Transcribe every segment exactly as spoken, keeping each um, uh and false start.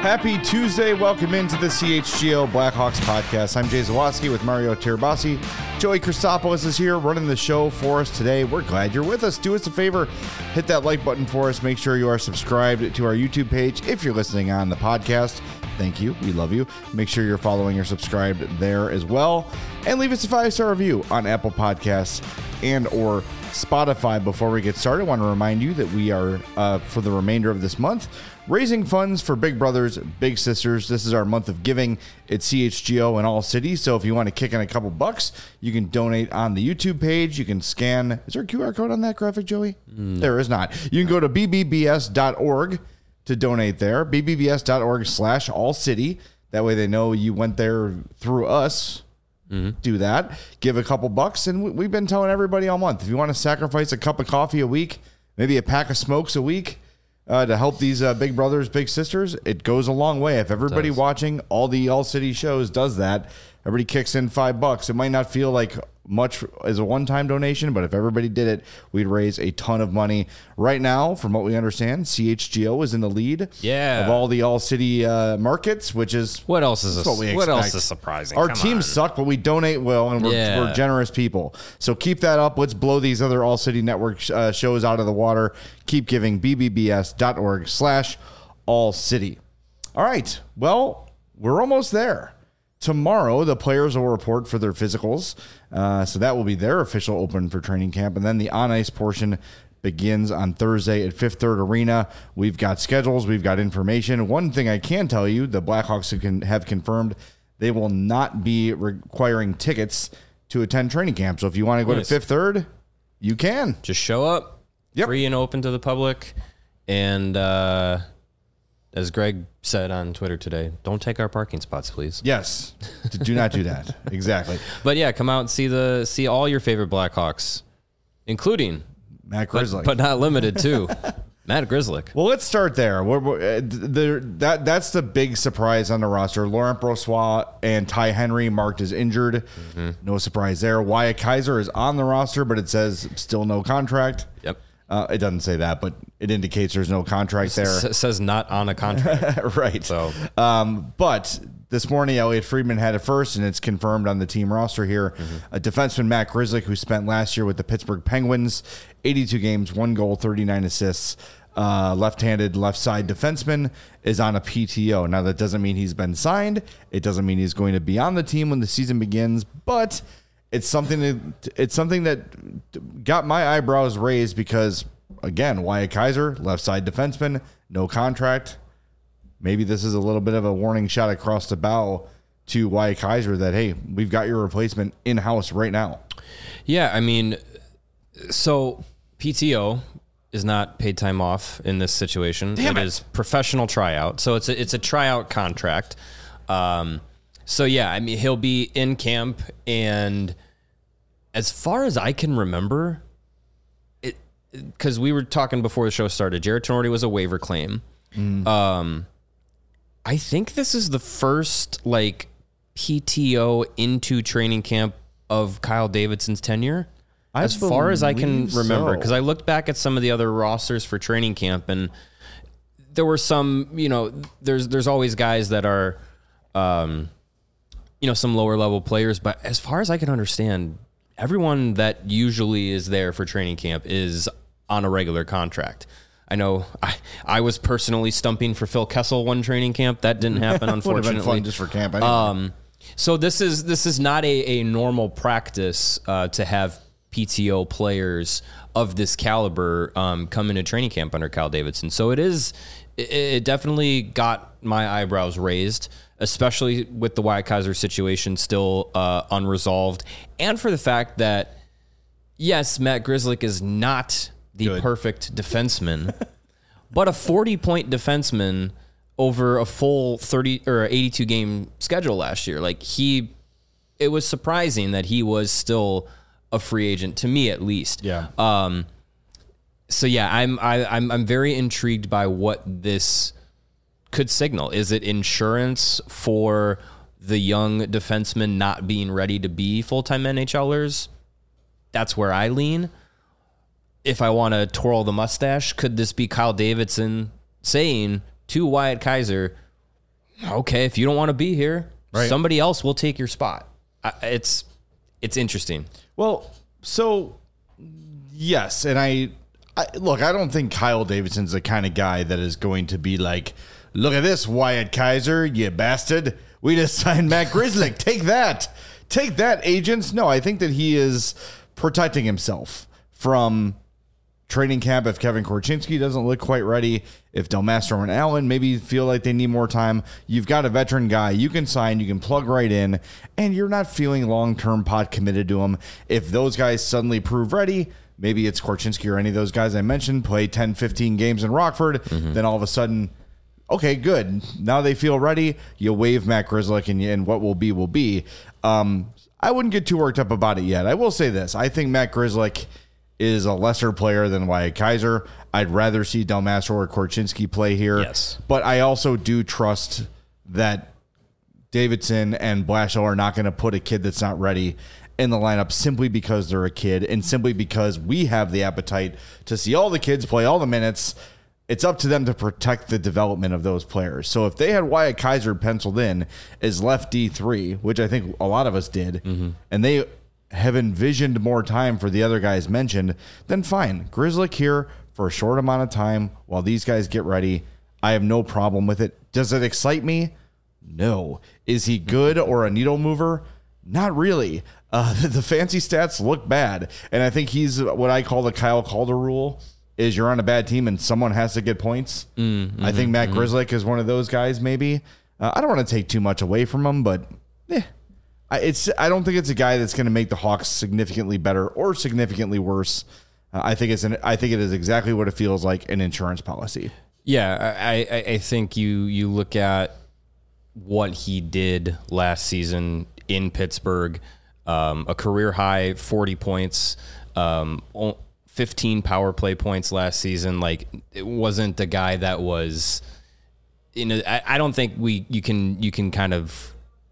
Happy Tuesday. Welcome into the C H G O Blackhawks podcast. I'm Jay Zawaski with Mario Tirabassi. Joey Christopoulos is here running the show for us today. We're glad you're with us. Do us a favor, hit that like button for us. Make sure you are subscribed to our YouTube page if you're listening on the podcast. Thank you. We love you. Make sure you're following or subscribed there as well. And leave us a five-star review on Apple Podcasts and or Spotify. Before we get started, I want to remind you that we are, uh, for the remainder of this month, raising funds for Big Brothers, Big Sisters. This is our month of giving at C H G O in all cities. So if you want to kick in a couple bucks, you can donate on the YouTube page. You can scan. Is there a Q R code on that graphic, Joey? No. There is not. You can go to b b b s dot org to donate there. b b b s dot org slash all city. That way they know you went there through us. Mm-hmm. Do that. Give a couple bucks. And we've been telling everybody all month, if you want to sacrifice a cup of coffee a week, maybe a pack of smokes a week, Uh, to help these uh, Big Brothers, Big Sisters, it goes a long way. If everybody watching all the All City shows does that, everybody kicks in five bucks. It might not feel like much as a one-time donation, but if everybody did it, we'd raise a ton of money. Right now, from what we understand, C H G O is in the lead yeah. of all the All City uh, markets, which is what else is a, what we expect. What else is surprising? Our Come teams on. suck, but we donate well, and we're, yeah. we're generous people. So keep that up. Let's blow these other All City Network uh, shows out of the water. Keep giving. b b b s dot org slash all city. All right. Well, we're almost there. Tomorrow, the players will report for their physicals. Uh, so that will be their official open for training camp. And then the on-ice portion begins on Thursday at Fifth Third Arena. We've got schedules. We've got information. One thing I can tell you, the Blackhawks can have confirmed they will not be requiring tickets to attend training camp. So if you want to go nice. to Fifth Third, you can. Just show up. Yep. Free and open to the public. And uh, as Greg said on Twitter today, don't take our parking spots, please. Yes. Do not do that. Exactly. But yeah, come out and see the see all your favorite Blackhawks, including Matt Grzelcyk, but, but not limited to Matt Grzelcyk. Well, let's start there. We're, we're, uh, the, that that's the big surprise on the roster. Laurent Brossoit and Ty Henry marked as injured. Mm-hmm. No surprise there. Wyatt Kaiser is on the roster, but it says still no contract. Yep. Uh, it doesn't say that, but it indicates there's no contract there. It says not on a contract. Right. So, um, but this morning, Elliot Friedman had it first, and it's confirmed on the team roster here. Mm-hmm. A defenseman, Matt Grzelcyk, who spent last year with the Pittsburgh Penguins, eighty-two games, one goal, thirty-nine assists, uh, left-handed, left-side defenseman, is on a P T O. Now, that doesn't mean he's been signed. It doesn't mean he's going to be on the team when the season begins, but it's something that, it's something that got my eyebrows raised because, again, Wyatt Kaiser, left-side defenseman, no contract. Maybe this is a little bit of a warning shot across the bow to Wyatt Kaiser that, hey, we've got your replacement in-house right now. Yeah, I mean, so P T O is not paid time off in this situation. Damn it, it is professional tryout. So it's a, it's a tryout contract. Um, so, yeah, I mean, he'll be in camp, and as far as I can remember, it because we were talking before the show started, Jarred Tinordi was a waiver claim. Mm. Um, I think this is the first, like, P T O into training camp of Kyle Davidson's tenure. I as far as I can remember, because so. I looked back at some of the other rosters for training camp, and there were some, you know, there's there's always guys that are, um, you know, some lower level players. But as far as I can understand, everyone that usually is there for training camp is on a regular contract. I know I, I was personally stumping for Phil Kessel one training camp. That didn't happen, unfortunately. Would have been fun just for camp anyway. Um, so this is this is not a, a normal practice uh, to have P T O players of this caliber um, come into training camp under Kyle Davidson. So it is, it, it definitely got my eyebrows raised, especially with the Wyatt Kaiser situation still uh, unresolved, and for the fact that, yes, Matt Grzelcyk is not the Good. perfect defenseman, but a forty-point defenseman over a full thirty or eighty-two game schedule last year. Like he, it was surprising that he was still a free agent, to me at least. Yeah. Um. So yeah, I'm I, I'm I'm very intrigued by what this could signal. Is it insurance for the young defensemen not being ready to be full-time NHLers? That's where I lean. If I want to twirl the mustache, could this be Kyle Davidson saying to Wyatt Kaiser, okay, if you don't want to be here, right. somebody else will take your spot. I, it's it's interesting. Well, so yes, and I, I look, I don't think Kyle Davidson's the kind of guy that is going to be like, look at this, Wyatt Kaiser, you bastard. We just signed Matt Grzelcyk. Take that. Take that, agents. No, I think that he is protecting himself from training camp if Kevin Korchinski doesn't look quite ready, if Del Mastro and Allen maybe feel like they need more time. You've got a veteran guy you can sign, you can plug right in, and you're not feeling long-term pot committed to him. If those guys suddenly prove ready, maybe it's Korchinski or any of those guys I mentioned, play ten, fifteen games in Rockford, mm-hmm. then all of a sudden, okay, good. Now they feel ready. You waive Matt Grzelcyk, and, and what will be will be. Um, I wouldn't get too worked up about it yet. I will say this. I think Matt Grzelcyk is a lesser player than Wyatt Kaiser. I'd rather see Del Mastro or Korchinski play here. Yes. But I also do trust that Davidson and Blashill are not going to put a kid that's not ready in the lineup simply because they're a kid and simply because we have the appetite to see all the kids play all the minutes. It's up to them to protect the development of those players. So if they had Wyatt Kaiser penciled in as left D three, which I think a lot of us did, mm-hmm. and they have envisioned more time for the other guys mentioned, then fine. Grzelcyk here for a short amount of time while these guys get ready. I have no problem with it. Does it excite me? No. Is he good or a needle mover? Not really. Uh, the, the fancy stats look bad. And I think he's what I call the Kyle Calder rule, is you're on a bad team and someone has to get points. Mm-hmm, I think Matt mm-hmm. Grzelcyk is one of those guys maybe. Uh, I don't want to take too much away from him, but eh. It's. I don't think it's a guy that's going to make the Hawks significantly better or significantly worse. Uh, I think it's an. I think it is exactly what it feels like, an insurance policy. Yeah, I, I, I think you you look at what he did last season in Pittsburgh, um, a career high forty points, um, fifteen power play points last season. Like, it wasn't the guy that was. You know, I, I don't think we you can you can kind of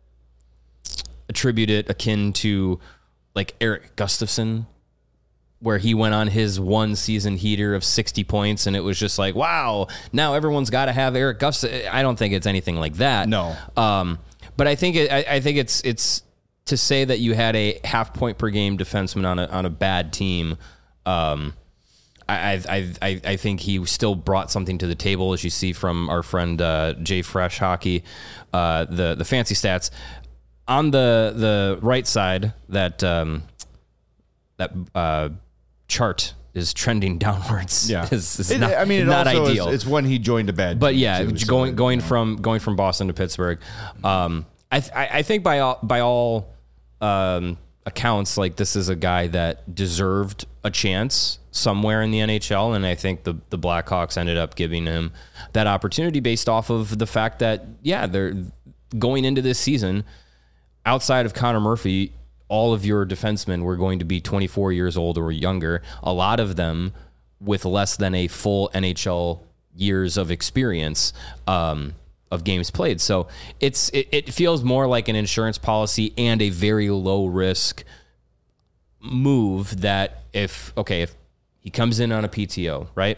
attribute it akin to like Eric Gustafson, where he went on his one season heater of sixty points and it was just like, wow, now everyone's got to have Eric Gustafson. I don't think it's anything like that. No. Um, but I think it, I, I think it's it's to say that you had a half point per game defenseman on a on a bad team. Um, I I I I think he still brought something to the table, as you see from our friend uh, Jay Fresh Hockey, uh, the the fancy stats. On the the right side, that um, that uh, chart is trending downwards. Yeah, is, is it, not, I mean, it not also ideal. Is, it's when he joined a bad. But team yeah, too, going so, going yeah. from going from Boston to Pittsburgh, um, I th- I think by all by all um, accounts, like, this is a guy that deserved a chance somewhere in the N H L, and I think the the Blackhawks ended up giving him that opportunity based off of the fact that yeah, they're going into this season. Outside of Connor Murphy, all of your defensemen were going to be twenty-four years old or younger, a lot of them with less than a full N H L years of experience um, of games played. So it's it, it feels more like an insurance policy and a very low risk move that if, okay, if he comes in on a P T O, right,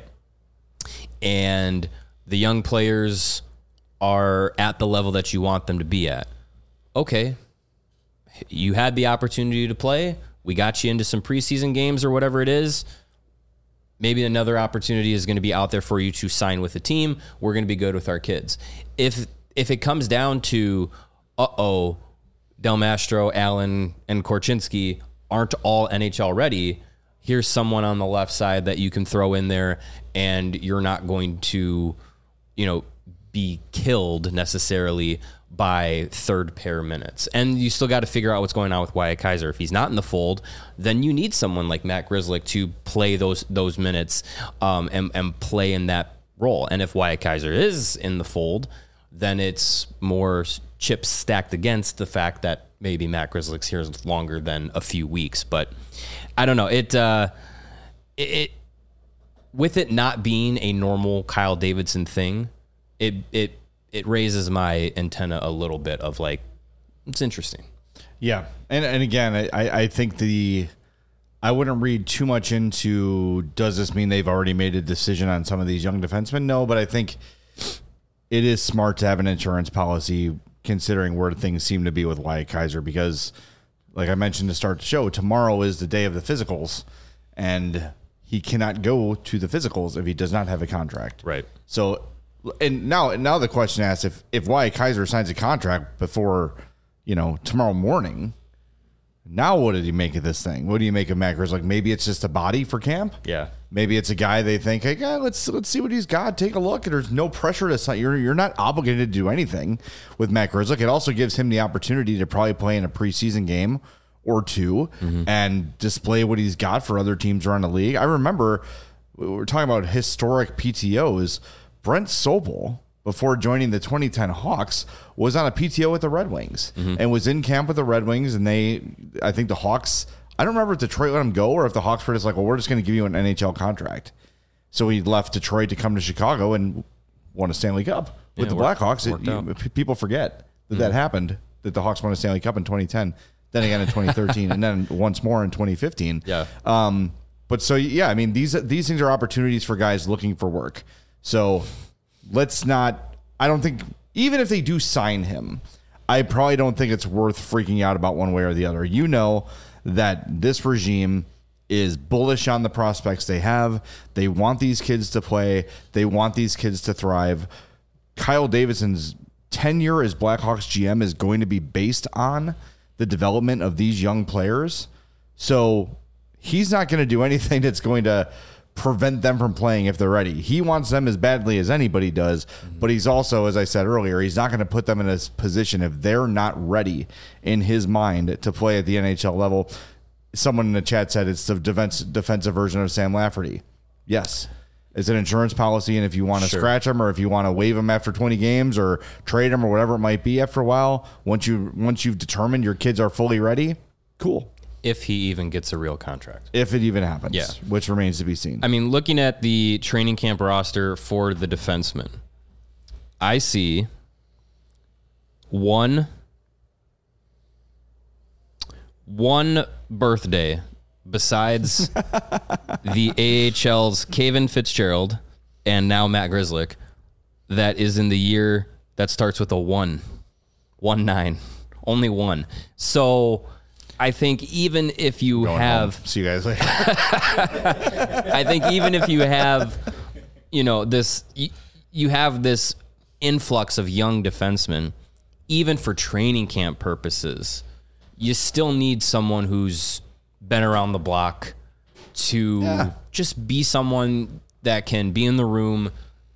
and the young players are at the level that you want them to be at, okay, you had the opportunity to play. We got you into some preseason games or whatever it is. Maybe another opportunity is going to be out there for you to sign with a team. We're going to be good with our kids. If if it comes down to, uh-oh, Del Mastro, Allen, and Korchinski aren't all N H L ready, here's someone on the left side that you can throw in there, and you're not going to, you know, be killed necessarily by third pair minutes. And you still got to figure out what's going on with Wyatt Kaiser. If he's not in the fold, then you need someone like Matt Grzelcyk to play those those minutes um, and, and play in that role. And if Wyatt Kaiser is in the fold, then it's more chips stacked against the fact that maybe Matt Grzelcyk's here longer than a few weeks. But I don't know. It, uh, it, it with it not being a normal Kyle Davidson thing, it it it raises my antenna a little bit of like, it's interesting. Yeah. And and again, I, I think the I wouldn't read too much into, does this mean they've already made a decision on some of these young defensemen? No, but I think it is smart to have an insurance policy considering where things seem to be with Wyatt Kaiser, because like I mentioned to start the show, tomorrow is the day of the physicals, and he cannot go to the physicals if he does not have a contract. Right. So, and now, now the question asks, if, if Wyatt Kaiser signs a contract before, you know, tomorrow morning, now what did he make of this thing? What do you make of Matt Grzelcyk? Maybe it's just a body for camp. Yeah. Maybe it's a guy they think, hey, yeah, let's let's see what he's got. Take a look. And there's no pressure to sign. You're you're not obligated to do anything with Matt Grzelcyk. It also gives him the opportunity to probably play in a preseason game or two mm-hmm. and display what he's got for other teams around the league. I remember we were talking about historic P T Os. Brent Sobel, before joining the twenty ten Hawks, was on a P T O with the Red Wings mm-hmm. and was in camp with the Red Wings. And they, I think the Hawks, I don't remember if Detroit let him go or if the Hawks were just like, well, we're just going to give you an N H L contract. So he left Detroit to come to Chicago and won a Stanley Cup with yeah, the worked, Blackhawks. It, you, people forget that mm-hmm. that happened, that the Hawks won a Stanley Cup in twenty ten, then again in twenty thirteen, and then once more in twenty fifteen. Yeah. Um, but so, yeah, I mean, these these things are opportunities for guys looking for work. So let's not, I don't think, even if they do sign him, I probably don't think it's worth freaking out about one way or the other. You know that this regime is bullish on the prospects they have. They want these kids to play. They want these kids to thrive. Kyle Davidson's tenure as Blackhawks G M is going to be based on the development of these young players. So he's not going to do anything that's going to prevent them from playing if they're ready. He wants them as badly as anybody does, mm-hmm. but he's also, as I said earlier, he's not going to put them in a position if they're not ready in his mind to play at the N H L level. Someone in the chat said it's the defense, defensive version of Sam Lafferty. Yes. It's an insurance policy, and if you want to sure. scratch him or if you want to waive him after twenty games or trade him or whatever it might be after a while, once, you, once you've determined your kids are fully ready, cool. If he even gets a real contract. If it even happens. Yeah. Which remains to be seen. I mean, looking at the training camp roster for the defensemen, I see one, one birthday besides the A H L's Kevin Fitzgerald and now Matt Grzelcyk that is in the year that starts with a one. One nine. Only one. So I think even if you Going have... home. See you guys later. I think even if you have, you know, this... You, you have this influx of young defensemen, even for training camp purposes, you still need someone who's been around the block to yeah. just be someone that can be in the room,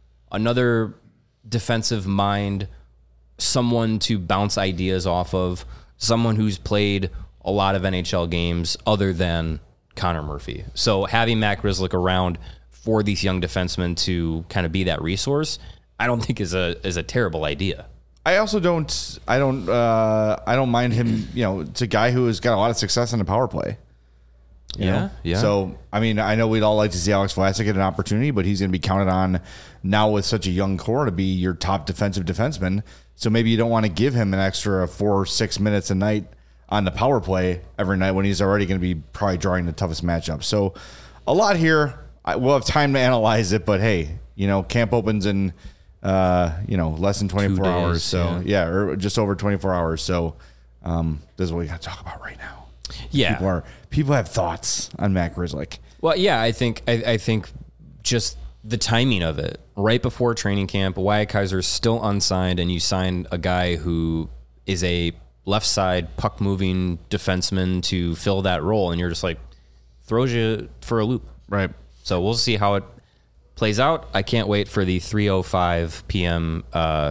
another defensive mind, someone to bounce ideas off of, someone who's played a lot of N H L games other than Connor Murphy. So having Matt Grzelcyk around for these young defensemen to kind of be that resource, I don't think is a is a terrible idea. I also don't I don't uh, I don't mind him, you know, it's a guy who has got a lot of success in the power play. You yeah, know? yeah. So, I mean, I know we'd all like to see Alex Vlasic get an opportunity, but he's going to be counted on now with such a young core to be your top defensive defenseman. So maybe you don't want to give him an extra four or six minutes a night on the power play every night when he's already going to be probably drawing the toughest matchup. So a lot here. I, we'll have time to analyze it, but hey, you know, camp opens in, uh, you know, less than twenty-four days, hours. So yeah. yeah, or just over twenty-four hours. So um, this is what we got to talk about right now. Yeah. People are people have thoughts on Matt Grzelcyk. Well, yeah, I think I, I think just the timing of it. Right before training camp, Wyatt Kaiser is still unsigned, and you sign a guy who is a left side puck moving defenseman to fill that role, and you're just like, throws you for a loop. Right. So we'll see how it plays out. I can't wait for the three oh five p.m. Uh,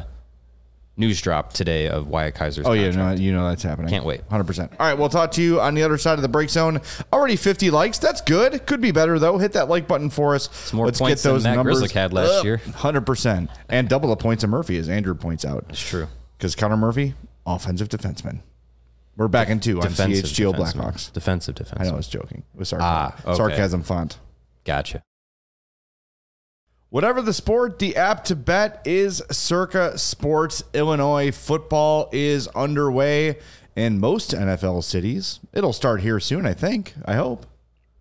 news drop today of Wyatt Kaiser's Oh, contract. yeah, no, you know that's happening. Can't wait. one hundred percent. All right, we'll talk to you on the other side of the break zone. Already fifty likes. That's good. Could be better, though. Hit that like button for us. It's more Let's points get those than Matt numbers Grzelcyk had last up. year. one hundred percent. And double the points of Murphy, as Andrew points out. It's true. Because Connor Murphy, offensive defenseman. We're back in two on C H G O Blackhawks. Defensive defenseman. I know, I was joking. It was sarcasm. Ah, okay. Sarcasm font. Gotcha. Whatever the sport, the app to bet is Circa Sports. Illinois football is underway in most N F L cities. It'll start here soon, I think. I hope.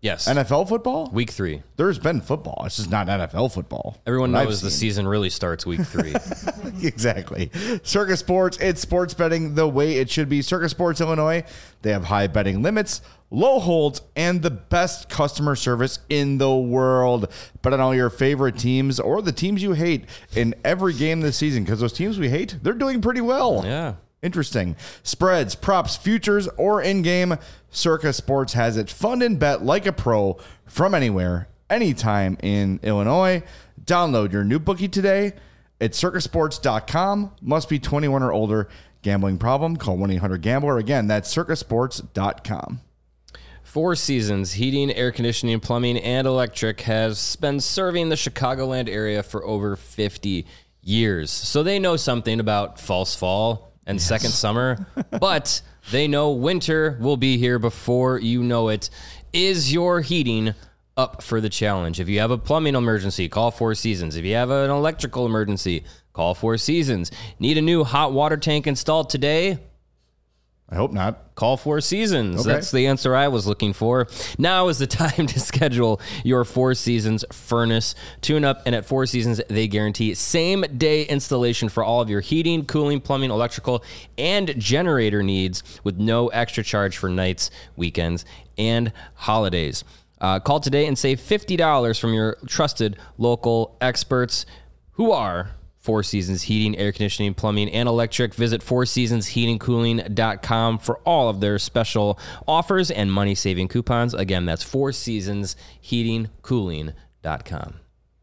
Yes. N F L football? Week three. There's been football. It's just not N F L football. Everyone What I've knows the seen. season really starts week three. Exactly. Circus Sports, it's sports betting the way it should be. Circus Sports Illinois, they have high betting limits, low holds, and the best customer service in the world. Bet on all your favorite teams or the teams you hate in every game this season, because those teams we hate, they're doing pretty well. Yeah. Interesting. Spreads, props, futures, or in-game, Circus Sports has it. Fund and bet like a pro from anywhere, anytime in Illinois. Download your new bookie today at circus sports dot com. Must be twenty-one or older. Gambling problem? Call one eight hundred gambler. Again, that's circus sports dot com. Four Seasons Heating, Air Conditioning, Plumbing, and Electric has been serving the Chicagoland area for over fifty years. So they know something about false fall and yes. second summer, but they know winter will be here before you know it. Is your heating up for the challenge? If you have a plumbing emergency, call Four Seasons. If you have an electrical emergency, call Four Seasons. Need a new hot water tank installed today? I hope not. Call Four Seasons. Okay. That's the answer I was looking for. Now is the time to schedule your Four Seasons furnace tune-up. And at Four Seasons, they guarantee same-day installation for all of your heating, cooling, plumbing, electrical, and generator needs with no extra charge for nights, weekends, and holidays. Uh, call today and save fifty dollars from your trusted local experts who are Four Seasons Heating, Air Conditioning, Plumbing, and Electric. Visit four seasons heating cooling dot com for all of their special offers and money-saving coupons. Again, that's four seasons heating cooling dot com.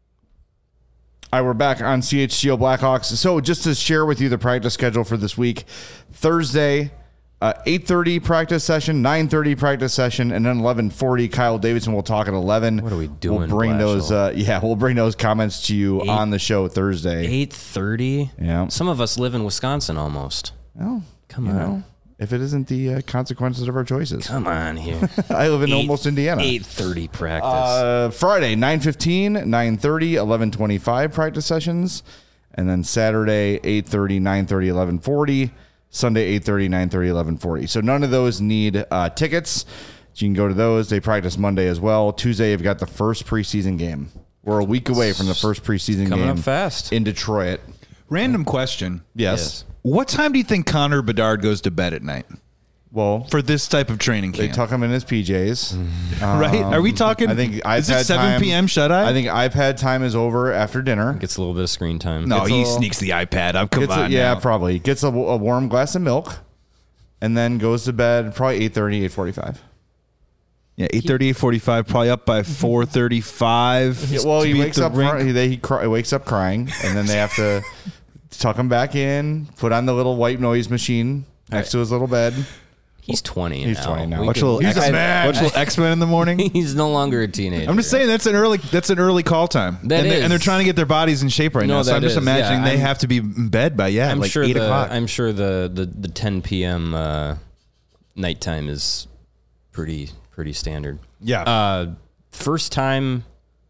All right, we're back on C H G O Blackhawks. So just to share with you the practice schedule for this week, Thursday, uh, eight thirty practice session, nine thirty practice session, and then eleven forty. Kyle Davidson will talk at eleven. What are we doing, We'll bring Blashill? those. Uh, yeah, we'll bring those comments to you Eight- on the show Thursday. eight thirty? Yeah. Some of us live in Wisconsin almost. Well, Come you on. know, if it isn't the uh, consequences of our choices. Come on here. I live in almost Indiana. eight thirty practice. Uh, Friday, nine fifteen, nine thirty, eleven twenty-five practice sessions. And then Saturday, eight thirty, nine thirty, eleven forty. Sunday, eight thirty, nine thirty, eleven forty. So none of those need uh, tickets. You can go to those. They practice Monday as well. Tuesday, you've got the first preseason game. We're a week away from the first preseason Coming game up fast. in Detroit. Random question. Yes. Yes. What time do you think Connor Bedard goes to bed at night Well, for this type of training they camp? tuck him in his P Js. right? Are we talking? I think iPad is it seven time- p.m. shut eye? I think iPad time is over after dinner. Gets a little bit of screen time. no, it's he a- sneaks the iPad up. Come Gets a- on, yeah, now. probably. Gets a, a warm glass of milk and then goes to bed probably eight thirty, eight forty-five. yeah, eight thirty, eight forty-five, probably up by four thirty-five. Yeah, well, to he be at wakes the up. rink. Cry, he, he, cry, he wakes up crying, and then they have to tuck him back in, put on the little white noise machine next to his little bed. He's twenty He's now. twenty now. We Watch a can- little He's a X- man. watch a little X-Men in the morning. He's no longer a teenager. I'm just saying that's an early that's an early call time. That and, they're, is. and they're trying to get their bodies in shape right No, now. So that I'm just is. imagining Yeah, they I'm- have to be in bed by yeah, I'm like sure eight the o'clock. I'm sure the the, the ten p.m. Uh, nighttime is pretty pretty standard. Yeah. Uh, first time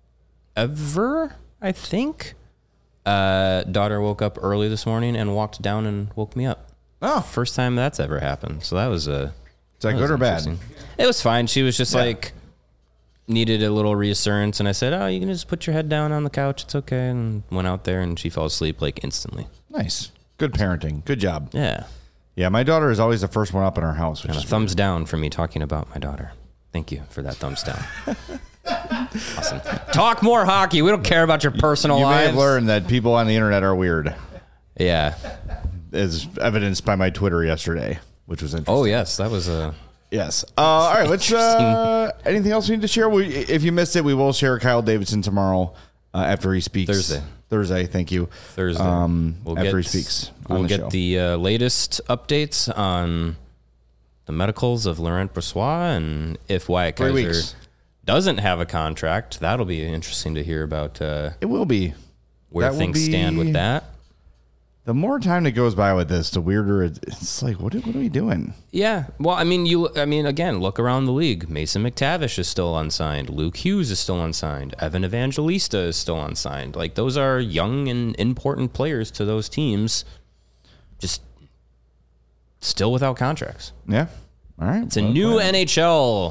ever, I think. Uh, daughter woke up early this morning and walked down and woke me up. Oh, First time that's ever happened. So that was a. is that that good was or bad? interesting. It was fine. She was just Yeah. like needed a little reassurance, and I said, "Oh, you can just put your head down on the couch. It's okay." And went out there, and she fell asleep like instantly. Nice. Good parenting. Good job. Yeah. Yeah, my daughter is always the first one up in our house, which And a is thumbs down for me talking about my daughter. Thank you for that thumbs down. Awesome. Talk more hockey. We don't care about your personal You may lives. have learned that people on the internet are weird, Yeah. as evidenced by my Twitter yesterday, which was interesting. Oh, yes. That was a. Yes. Uh, all right. Let's. Uh, anything else we need to share? We, if you missed it, we will share Kyle Davidson tomorrow uh, after he speaks. Thursday. Thursday. Thank you. Thursday. Um, We'll after get- he speaks. on We'll the get show. the uh, latest updates on the medicals of Laurent Brossois, and if Wyatt Three Kaiser weeks. doesn't have a contract, that'll be interesting to hear about uh, It will be. where That will things stand be- with that. The more time that goes by with this, the weirder it, it's like. What? are- What are we doing? Yeah. Well, I mean, you. I mean, again, look around the league. Mason McTavish is still unsigned. Luke Hughes is still unsigned. Evan Evangelista is still unsigned. Like, those are young and important players to those teams. Just still without contracts. Yeah. All right. It's a new N H L.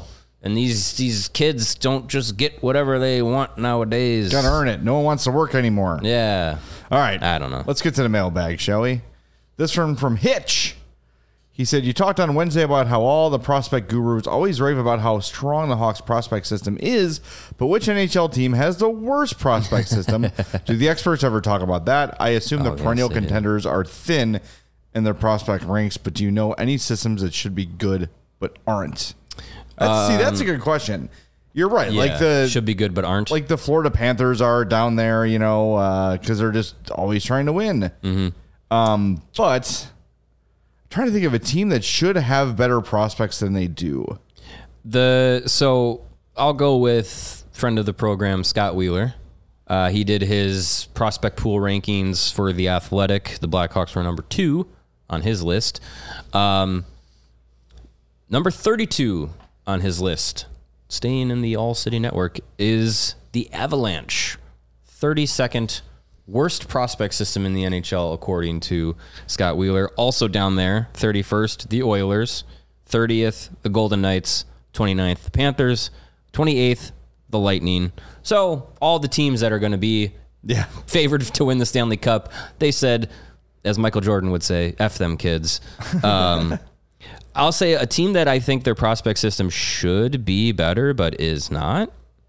And these these kids don't just get whatever they want nowadays. Gotta earn it. No one wants to work anymore. Yeah. All right. I don't know. Let's get to the mailbag, shall we? This one from Hitch. He said, you talked on Wednesday about how all the prospect gurus always rave about how strong the Hawks prospect system is, but which N H L team has the worst prospect system? Do the experts ever talk about that? I assume Oh, the yes, perennial they do. contenders are thin in their prospect ranks, but do you know any systems that should be good but aren't? That's, see, that's a good question. You're right. Yeah, like the should be good but aren't. like the Florida Panthers are down there, you know, because they're just always trying to win. Mm-hmm. Um, but I'm trying to think of a team that should have better prospects than they do. The so I'll go with friend of the program, Scott Wheeler. Uh, he did his prospect pool rankings for the Athletic. The Blackhawks were number two on his list. Um, number thirty-two on his list, staying in the All City Network, is the Avalanche. thirty-second worst prospect system in the N H L, according to Scott Wheeler. Also down there, thirty-first, the Oilers. thirtieth, the Golden Knights. twenty-ninth, the Panthers. twenty-eighth, the Lightning. So all the teams that are going to be Yeah. favored to win the Stanley Cup, they said, as Michael Jordan would say, F them kids. Um, I'll say a team that I think their prospect system should be better, but is not.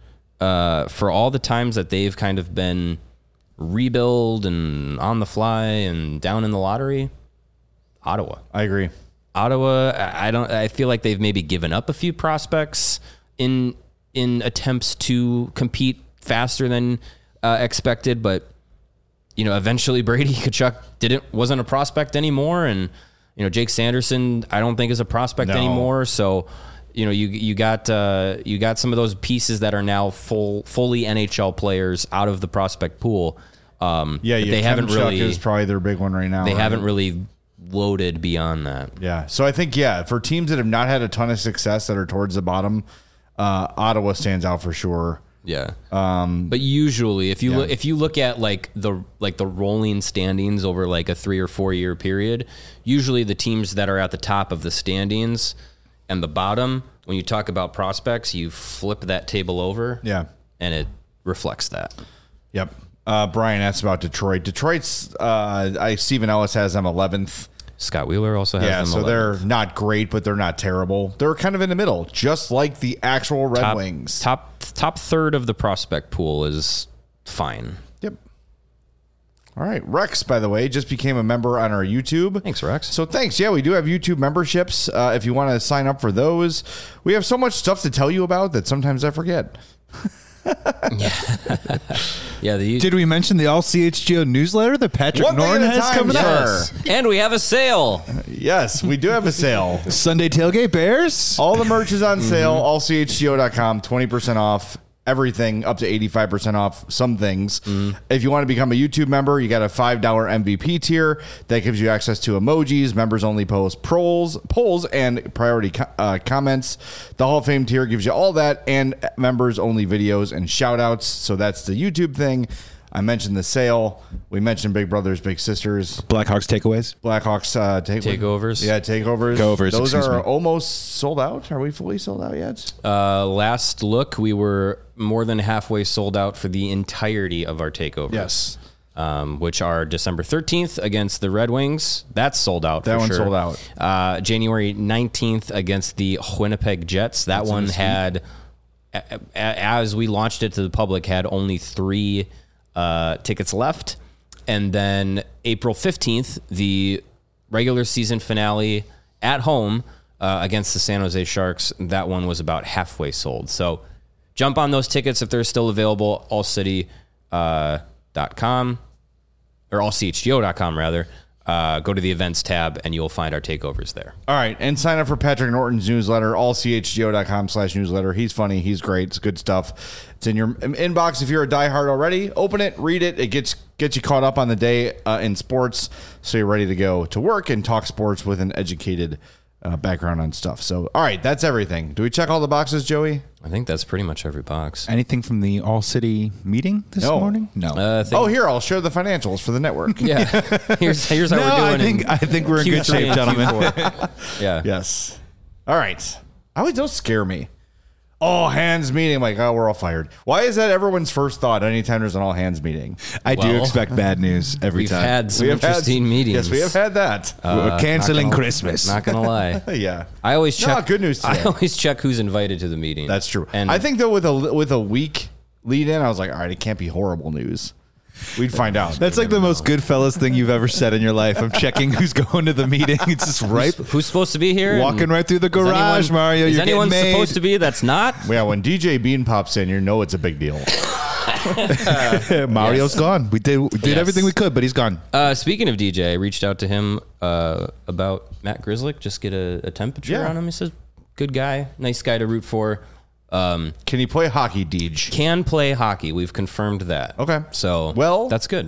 Uh, for all the times that they've kind of been rebuild and on the fly and down in the lottery, Ottawa. I agree. Ottawa, I I don't. I feel like they've maybe given up a few prospects in in attempts to compete faster than uh, expected, but you know, eventually Brady Tkachuk didn't wasn't a prospect anymore, and you know, Jake Sanderson I don't think is a prospect No. anymore. So you know, you you got uh, you got some of those pieces that are now full fully N H L players out of the prospect pool. Um, Yeah, but yeah they haven't Kevin Chuck really is probably their big one right now. they right? haven't really loaded beyond that. Yeah. So I think, yeah, for teams that have not had a ton of success that are towards the bottom, uh, Ottawa stands out for sure. Yeah. Um, but usually if you yeah. look, if you look at like the like the rolling standings over like a three or four year period, usually the teams that are at the top of the standings and the bottom, when you talk about prospects, you flip that table over. Yeah. And it reflects that. Yep. Uh, Brian asked about Detroit. Detroit's, uh, I Stephen Ellis has them eleventh. Scott Wheeler also has Yeah, them so eleventh. they're not great, but they're not terrible. They're kind of in the middle, just like the actual Red top, Wings. Top top third of the prospect pool is fine. Yep. All right. Rex, by the way, just became a member on our YouTube. Thanks, Rex. So thanks. Yeah, we do have YouTube memberships. Uh, if you want to sign up for those, we have so much stuff to tell you about that sometimes I forget. Yeah, the Did we mention the All C H G O newsletter that Patrick One thing Norton at a has time, coming sir. up? and we have a sale. Yes, we do have a sale. Sunday tailgate Bears. All the merch is on sale. all c h g o dot com, twenty percent off. Everything up to eighty-five percent off some things. If you want to become a YouTube member, you got a five dollar M V P tier that gives you access to emojis, members only post polls, polls and priority co- uh, comments. The Hall of Fame tier gives you all that and members only videos and shout outs. So that's the YouTube thing. I mentioned the sale. We mentioned Big Brothers, Big Sisters, Blackhawks takeaways. Blackhawks uh, take- Takeovers. Yeah, takeovers. Takeovers, Those excuse are me. almost sold out. Are we fully sold out yet? Uh, last look, we were more than halfway sold out for the entirety of our takeovers. Yes. Um, which are December thirteenth against the Red Wings. That's sold out. That for one's sure. sold out. Uh, January nineteenth against the Winnipeg Jets. That one had, a- a- as we launched it to the public, had only three uh, tickets left. And then April fifteenth, the regular season finale at home uh, against the San Jose Sharks. That one was about halfway sold. So jump on those tickets if they're still available. all city dot com or all c h g o dot com rather. Uh, go to the events tab and you'll find our takeovers there. All right, and sign up for Patrick Norton's newsletter, all c h g o dot com slash newsletter. He's funny. He's great. It's good stuff. It's in your inbox if you're a diehard already. Open it, read it. It gets gets you caught up on the day uh, in sports, so you're ready to go to work and talk sports with an educated uh, background on stuff. So, all right, that's everything. Do we check all the boxes, Joey? I think that's pretty much every box. Anything from the All City meeting this No. morning? No. Uh, I think, Oh, here, I'll share the financials for the network. yeah. Here's here's how no, we're doing. I think in I think we're in Q good three shape, and gentlemen. Q four. Yeah. Yes. All right. I always don't scare me. all hands meeting. I'm like, oh, we're all fired. Why is that everyone's first thought anytime there's an all hands meeting? I do Well, expect bad news every We've time. had some We have had- interesting meetings. Yes, we have had that. We're canceling not gonna- Christmas. Not gonna lie. yeah. I always No, check. good news today. I always check who's invited to the meeting. That's true. And I think though with a with a week lead in, I was like, all right, it can't be horrible news. We'd find out. That's like the most Goodfellas thing you've ever said in your life. I'm checking who's going to the meeting. It's just right. who's supposed to be here? Walking And right through the is garage, anyone- Mario. Is You're anyone getting made. supposed to be that's not? Yeah, when D J Bean pops in, you know it's a big deal. Mario's Yes. gone. We did we did Yes. everything we could, but he's gone. Uh, speaking of D J, I reached out to him uh, about Matt Grizzlick, just get a, a temperature Yeah. on him. He says, good guy, nice guy to root for. Um, Can he play hockey, Deej? can play hockey. We've confirmed that. Okay. So Well- that's good.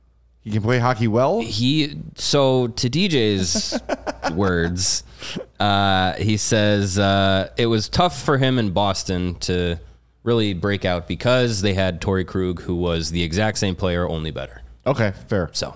He can play hockey well. He so to D J's words, uh, he says uh, it was tough for him in Boston to really break out because they had Torrey Krug, who was the exact same player, only better. Okay, fair. So,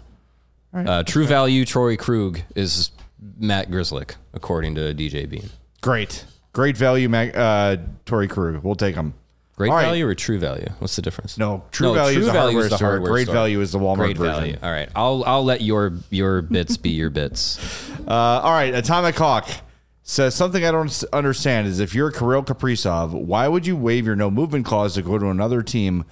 uh, true value Torrey Krug is Matt Grizzlick, according to D J Bean. Great. Great value, Mag- uh, Torrey Krug. We'll take him. Great All right. value or true value? What's the difference? No, true value is the hardware store. Great value is the Walmart Great version. value. All right, I'll I'll let your your bits be your bits. Uh, all right, Atomic Hawk says something I don't s- understand is if you're Kirill Kaprizov, why would you waive your no movement clause to go to another team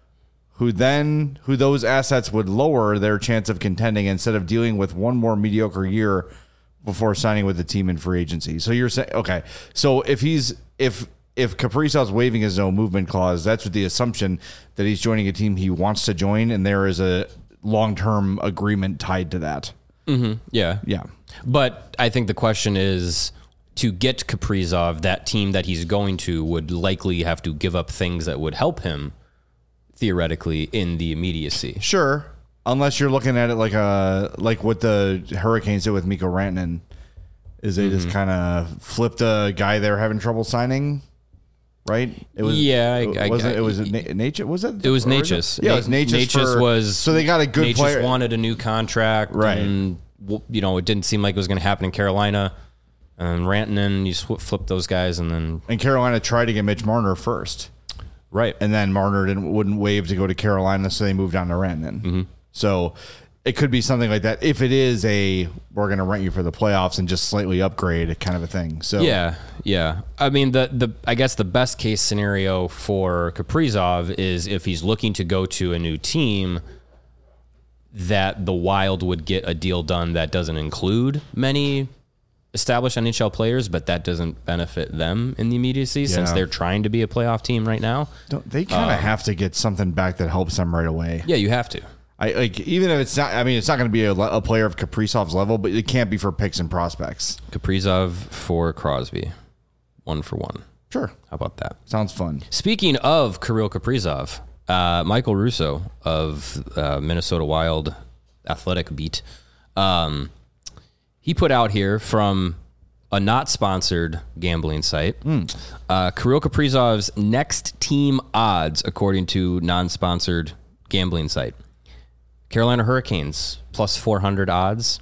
who then who those assets would lower their chance of contending instead of dealing with one more mediocre year before signing with the team in free agency? So you're saying okay, so if he's if if Kaprizov's waiving his no movement clause, that's with the assumption that he's joining a team he wants to join, and there is a long-term agreement tied to that. Yeah, Yeah. But I think the question is to get Kaprizov, that team that he's going to would likely have to give up things that would help him theoretically in the immediacy. Sure, unless you're looking at it like a like what the Hurricanes did with Mikko Rantanen, is they just kind of flipped a guy they were having trouble signing, right? It was Yeah, I- I- wasn't I- it was it Na- Nature? Was it? It was or is Natchez. Yeah, it was Na- Natchez. Natchez for- was so they got a good Natchez player. wanted a new contract, Right. And w- you know, it didn't seem like it was going to happen in Carolina. And Rantanen, you sw- flip those guys, and then And Carolina tried to get Mitch Marner first, right. and then Marner didn't wouldn't waive to go to Carolina, so they moved on to Rantanen. Mm-hmm. So it could be something like that if it is a we're going to rent you for the playoffs and just slightly upgrade kind of a thing. So Yeah, yeah. I mean, the the I guess the best case scenario for Kaprizov is if he's looking to go to a new team, that the Wild would get a deal done that doesn't include many established N H L players, but that doesn't benefit them in the immediacy since Yeah. they're trying to be a playoff team right now. Don't, they kind of have to get something back that helps them right away. Yeah, you have to. I like even if it's not. I mean, it's not going to be a, le- a player of Kaprizov's level, but it can't be for picks and prospects. Kaprizov for Crosby, one for one. Sure, How about that? sounds fun. Speaking of Kirill Kaprizov, uh, Michael Russo of uh, Minnesota Wild Athletic Beat, um, he put out here from a not sponsored gambling site, uh, Kirill Kaprizov's next team odds according to non-sponsored gambling site. Carolina Hurricanes plus four hundred odds.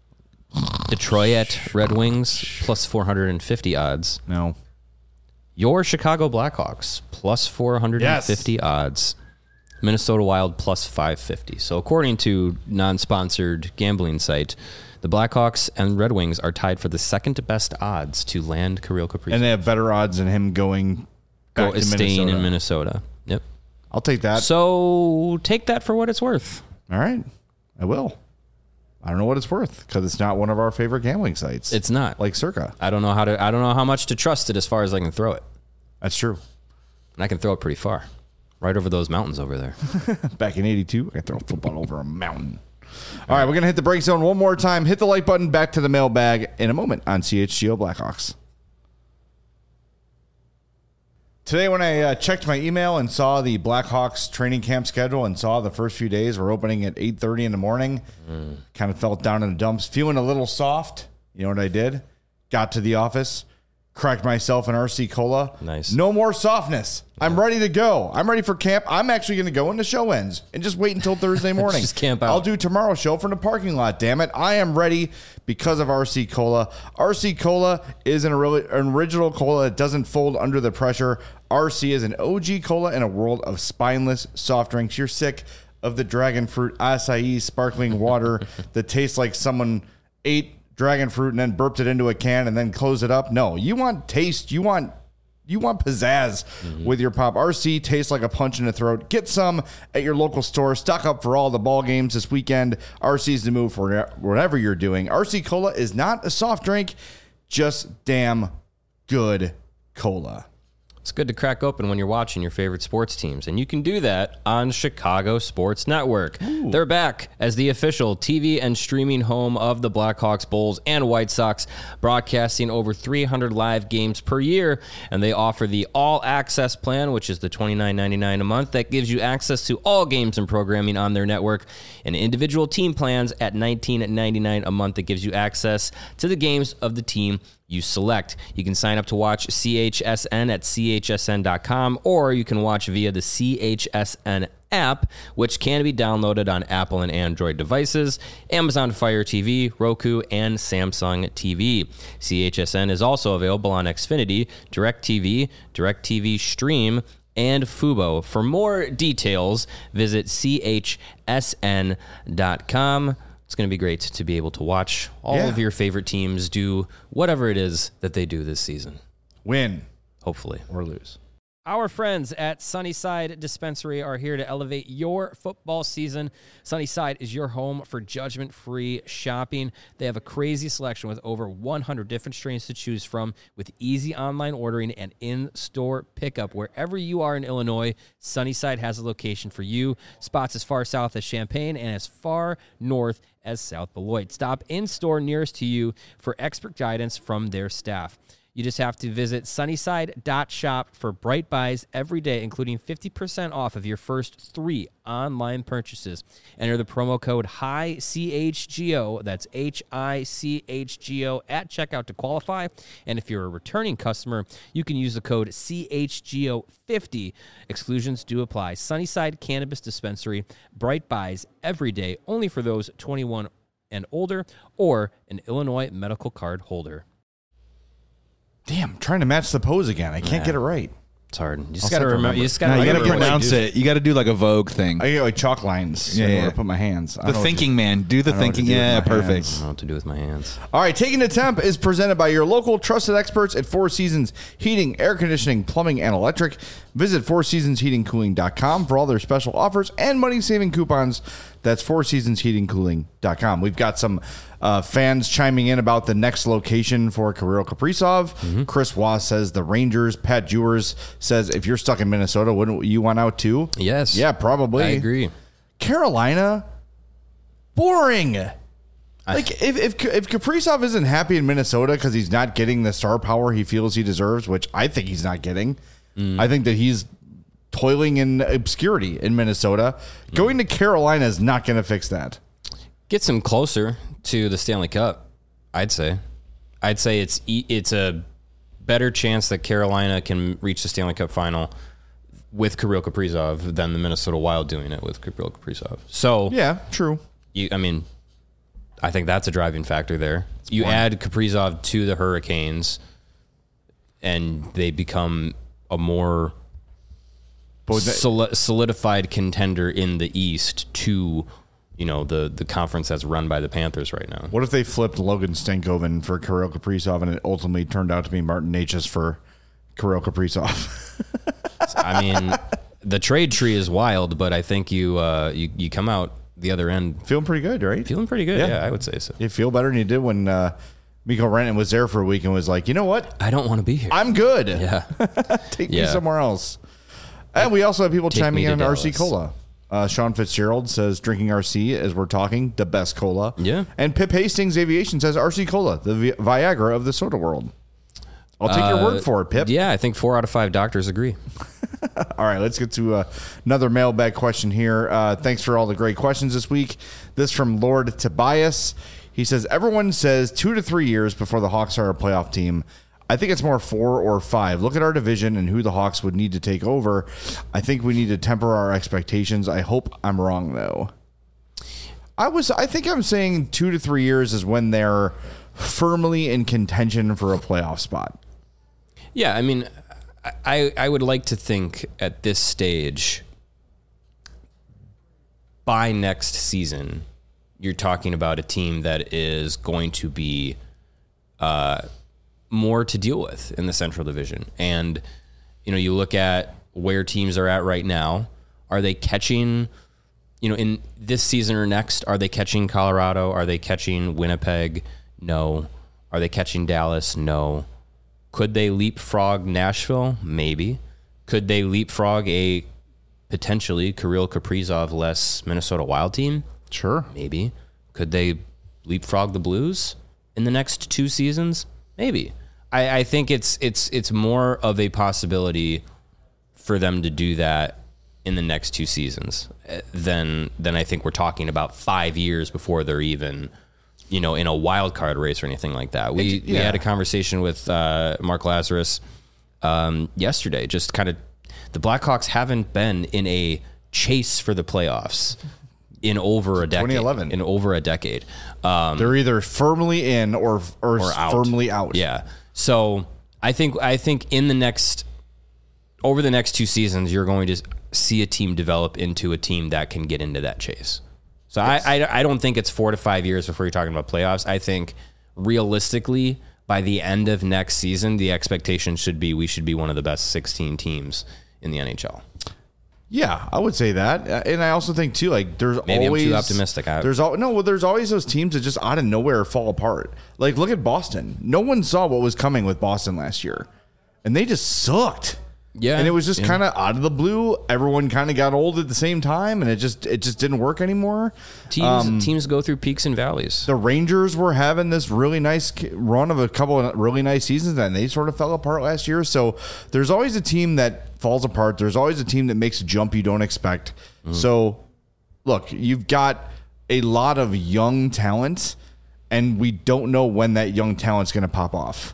Detroit Red Wings plus four hundred fifty odds. No, Your Chicago Blackhawks plus four hundred fifty Yes. odds. Minnesota Wild plus five fifty. So according to non-sponsored gambling site, the Blackhawks and Red Wings are tied for the second best odds to land Kirill Kaprizov. and they have better odds than him going back Go, to staying Minnesota. in Minnesota. Yep. I'll take that. So take that for what it's worth. All right, I will. I don't know what it's worth because it's not one of our favorite gambling sites. It's not. like Circa. I don't know how to I don't know how much to trust it as far as I can throw it. That's true. And I can throw it pretty far. Right over those mountains over there. Back in eighty-two, I throw a football over a mountain. All right, we're going to hit the break zone one more time. Hit the like button. Back to the mailbag in a moment on C H G O Blackhawks. Today, when I uh, checked my email and saw the Blackhawks training camp schedule and saw the first few days were opening at eight thirty in the morning, mm. kind of felt down in the dumps, feeling a little soft. You know what I did? Got to the office, Cracked myself an R C Cola. Nice. No more softness. I'm ready to go. I'm ready for camp. I'm actually going to go when the show ends and just wait until Thursday morning. Just camp out. I'll do tomorrow's show from the parking lot, damn it. I am ready because of R C Cola. R C Cola is an, an original cola that doesn't fold under the pressure. R C is an O G cola in a world of spineless soft drinks. You're sick of the dragon fruit acai sparkling water that tastes like someone ate dragon fruit and then burped it into a can and then closed it up. No, you want taste. You want you want pizzazz mm-hmm. with your pop. R C tastes like a punch in the throat. Get some at your local store. Stock up for all the ball games this weekend. R C's the move for whatever you're doing. R C Cola is not a soft drink, just damn good cola. It's good to crack open when you're watching your favorite sports teams, and you can do that on Chicago Sports Network. Ooh. They're back as the official T V and streaming home of the Blackhawks, Bulls, and White Sox, broadcasting over three hundred live games per year, and they offer the All Access plan, which is the twenty-nine ninety-nine a month that gives you access to all games and programming on their network, and individual team plans at nineteen ninety-nine a month that gives you access to the games of the team you select. You can sign up to watch C H S N at C H S N dot com, or you can watch via the C H S N app, which can be downloaded on Apple and Android devices, Amazon Fire T V, Roku, and Samsung T V. C H S N is also available on Xfinity, DirecTV, DirecTV Stream, and Fubo. For more details, visit C H S N dot com. It's going to be great to be able to watch all yeah. of your favorite teams do whatever it is that they do this season. Win. Hopefully. Or lose. Our friends at Sunnyside Dispensary are here to elevate your football season. Sunnyside is your home for judgment-free shopping. They have a crazy selection with over one hundred different strains to choose from, with easy online ordering and in-store pickup. Wherever you are in Illinois, Sunnyside has a location for you. Spots as far south as Champaign and as far north as South Beloit. Stop in-store nearest to you for expert guidance from their staff. You just have to visit sunnyside dot shop for bright buys every day, including fifty percent off of your first three online purchases. Enter the promo code H I C H G O, that's H I C H G O, at checkout to qualify. And if you're a returning customer, you can use the code C H G O fifty. Exclusions do apply. Sunnyside Cannabis Dispensary, bright buys every day, only for those twenty-one and older or an Illinois medical card holder. Damn, I'm trying to match the pose again. I can't yeah. get it right. It's hard. You just got to remember. You just got no, to no, pronounce it. You got to do like a Vogue thing. I get like chalk lines. Yeah, so yeah. I want to put my hands. The thinking man. Do the thinking. Yeah, perfect. I don't know what to do with my hands. All right, Taking the Temp is presented by your local trusted experts at Four Seasons Heating, Air Conditioning, Plumbing, and Electric. Visit four seasons heating cooling dot com for all their special offers and money-saving coupons. That's four seasons heating cooling dot com. We've got some uh, fans chiming in about the next location for Kirill Kaprizov. Mm-hmm. Chris Wass says the Rangers. Pat Jewers says if you're stuck in Minnesota, wouldn't you want out too? Yes. Yeah, probably. I agree. Carolina, boring. Like if if if Kaprizov isn't happy in Minnesota because he's not getting the star power he feels he deserves, which I think he's not getting. Mm. I think that he's toiling in obscurity in Minnesota. Mm. Going to Carolina is not going to fix that. Gets him closer to the Stanley Cup, I'd say. I'd say it's it's a better chance that Carolina can reach the Stanley Cup final with Kirill Kaprizov than the Minnesota Wild doing it with Kirill Kaprizov. So yeah, true. You, I mean, I think that's a driving factor there. That's you point. Add Kaprizov to the Hurricanes, and they become a more solidified contender in the East to, you know, the, the conference that's run by the Panthers right now. What if they flipped Logan Stankoven for Kirill Kaprizov and it ultimately turned out to be Martin Necas for Kirill Kaprizov? I mean, the trade tree is wild, but I think you uh, you, you come out the other end feeling pretty good, right? Feeling pretty good, yeah, yeah I would say so. You feel better than you did when uh, Mikko Rantanen was there for a week and was like, you know what? I don't want to be here. I'm good. Yeah. Take yeah. me somewhere else. And we also have people Take chiming in on Dallas. R C Cola. Uh, Sean Fitzgerald says, drinking R C as we're talking, the best cola. Yeah. And Pip Hastings Aviation says, R C Cola, the Vi- Viagra of the soda world. I'll take uh, your word for it, Pip. Yeah, I think four out of five doctors agree. All right, let's get to uh, another mailbag question here. Uh, thanks for all the great questions this week. This from Lord Tobias. He says, everyone says two to three years before the Hawks are a playoff team. I think it's more four or five. Look at our division and who the Hawks would need to take over. I think we need to temper our expectations. I hope I'm wrong, though. I was. I think I'm saying two to three years is when they're firmly in contention for a playoff spot. Yeah, I mean, I I would like to think at this stage, by next season, you're talking about a team that is going to be uh, more to deal with in the Central Division. And, you know, you look at where teams are at right now. Are they catching, you know, in this season or next, are they catching Colorado? Are they catching Winnipeg? No. Are they catching Dallas? No. Could they leapfrog Nashville? Maybe. Could they leapfrog a potentially Kirill Kaprizov-less Minnesota Wild team? Sure. Maybe. Could they leapfrog the Blues in the next two seasons? Maybe. I, I think it's it's it's more of a possibility for them to do that in the next two seasons than than I think we're talking about five years before they're even, you know, in a wild card race or anything like that. We It's- yeah. we had a conversation with uh, Mark Lazarus um, yesterday. Just kind of, the Blackhawks haven't been in a chase for the playoffs in over a decade. twenty eleven In over a decade. Um, They're either firmly in or or, or out. firmly out. Yeah. So I think I think in the next over the next two seasons, you're going to see a team develop into a team that can get into that chase. So yes. I, I I don't think it's four to five years before you're talking about playoffs. I think realistically, by the end of next season, the expectation should be we should be one of the best sixteen teams in the N H L. Yeah, I would say that, and I also think too, like there's Maybe always I'm too optimistic. I, there's all no, well, there's always those teams that just out of nowhere fall apart. Like look at Boston. No one saw what was coming with Boston last year, and they just sucked. Yeah, and it was just yeah. kind of out of the blue. Everyone kind of got old at the same time, and it just it just didn't work anymore. Teams Um, teams go through peaks and valleys. The Rangers were having this really nice run of a couple of really nice seasons, and they sort of fell apart last year. So there's always a team that falls apart. There's always a team that makes a jump you don't expect. Mm. So, look, you've got a lot of young talent, and we don't know when that young talent's going to pop off.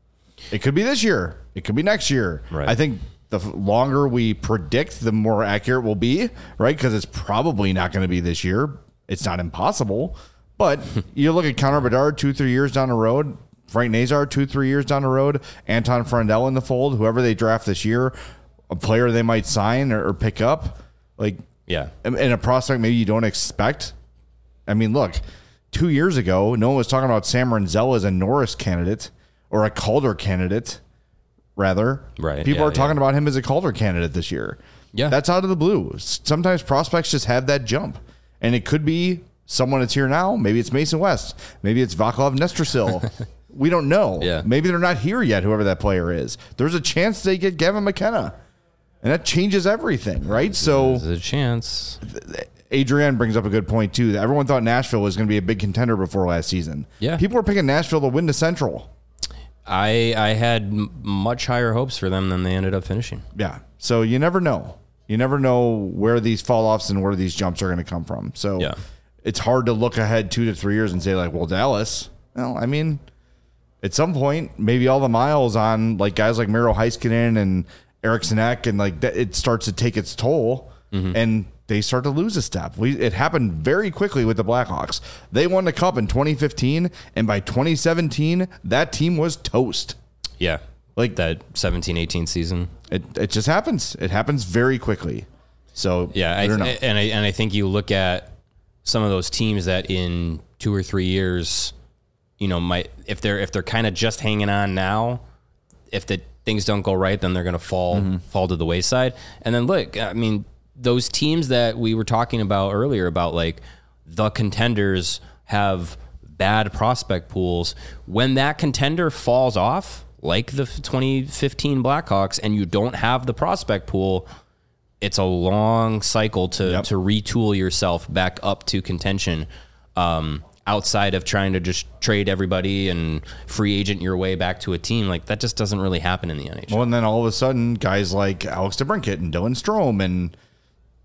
It could be this year. It could be next year. Right. I think the longer we predict, the more accurate we'll be, right? Because it's probably not going to be this year. It's not impossible. But you look at Connor Bedard two, three years down the road, Frank Nazar two, three years down the road, Anton Frandel in the fold, whoever they draft this year, a player they might sign or, or pick up, like, yeah, and a prospect maybe you don't expect. I mean, look, two years ago, no one was talking about Sam Renzel as a Norris candidate or a Calder candidate. Rather, right? People yeah, are talking yeah. about him as a Calder candidate this year. Yeah, that's out of the blue. Sometimes prospects just have that jump, and it could be someone that's here now. Maybe it's Mason West. Maybe it's Vaclav Nestrasil. We don't know. Yeah. Maybe they're not here yet. Whoever that player is, there's a chance they get Gavin McKenna, and that changes everything, right? So there's a chance. Adrienne brings up a good point too. That everyone thought Nashville was going to be a big contender before last season. Yeah, people were picking Nashville to win the Central. I I had m- much higher hopes for them than they ended up finishing. Yeah. So you never know. You never know where these fall offs and where these jumps are going to come from. So yeah. it's hard to look ahead two to three years and say like, well, Dallas. Well, I mean, at some point, maybe all the miles on like guys like Miro Heiskanen and Eriksson Ek and like that, it starts to take its toll, mm-hmm. and they start to lose a step. We it happened very quickly with the Blackhawks. They won the Cup in twenty fifteen, and by twenty seventeen, that team was toast. Yeah, like that seventeen eighteen season. It it just happens. It happens very quickly. So yeah, I, I and I and I think you look at some of those teams that in two or three years, you know, might if they're if they're kind of just hanging on now, if the things don't go right, then they're going to fall mm-hmm. fall to the wayside. And then look, I mean, those teams that we were talking about earlier about like the contenders have bad prospect pools. When that contender falls off, like the twenty fifteen Blackhawks, and you don't have the prospect pool, it's a long cycle to, yep. to retool yourself back up to contention, um, outside of trying to just trade everybody and free agent your way back to a team. Like that just doesn't really happen in the N H L. Well, and then all of a sudden, guys like Alex DeBrincat and Dylan Strome and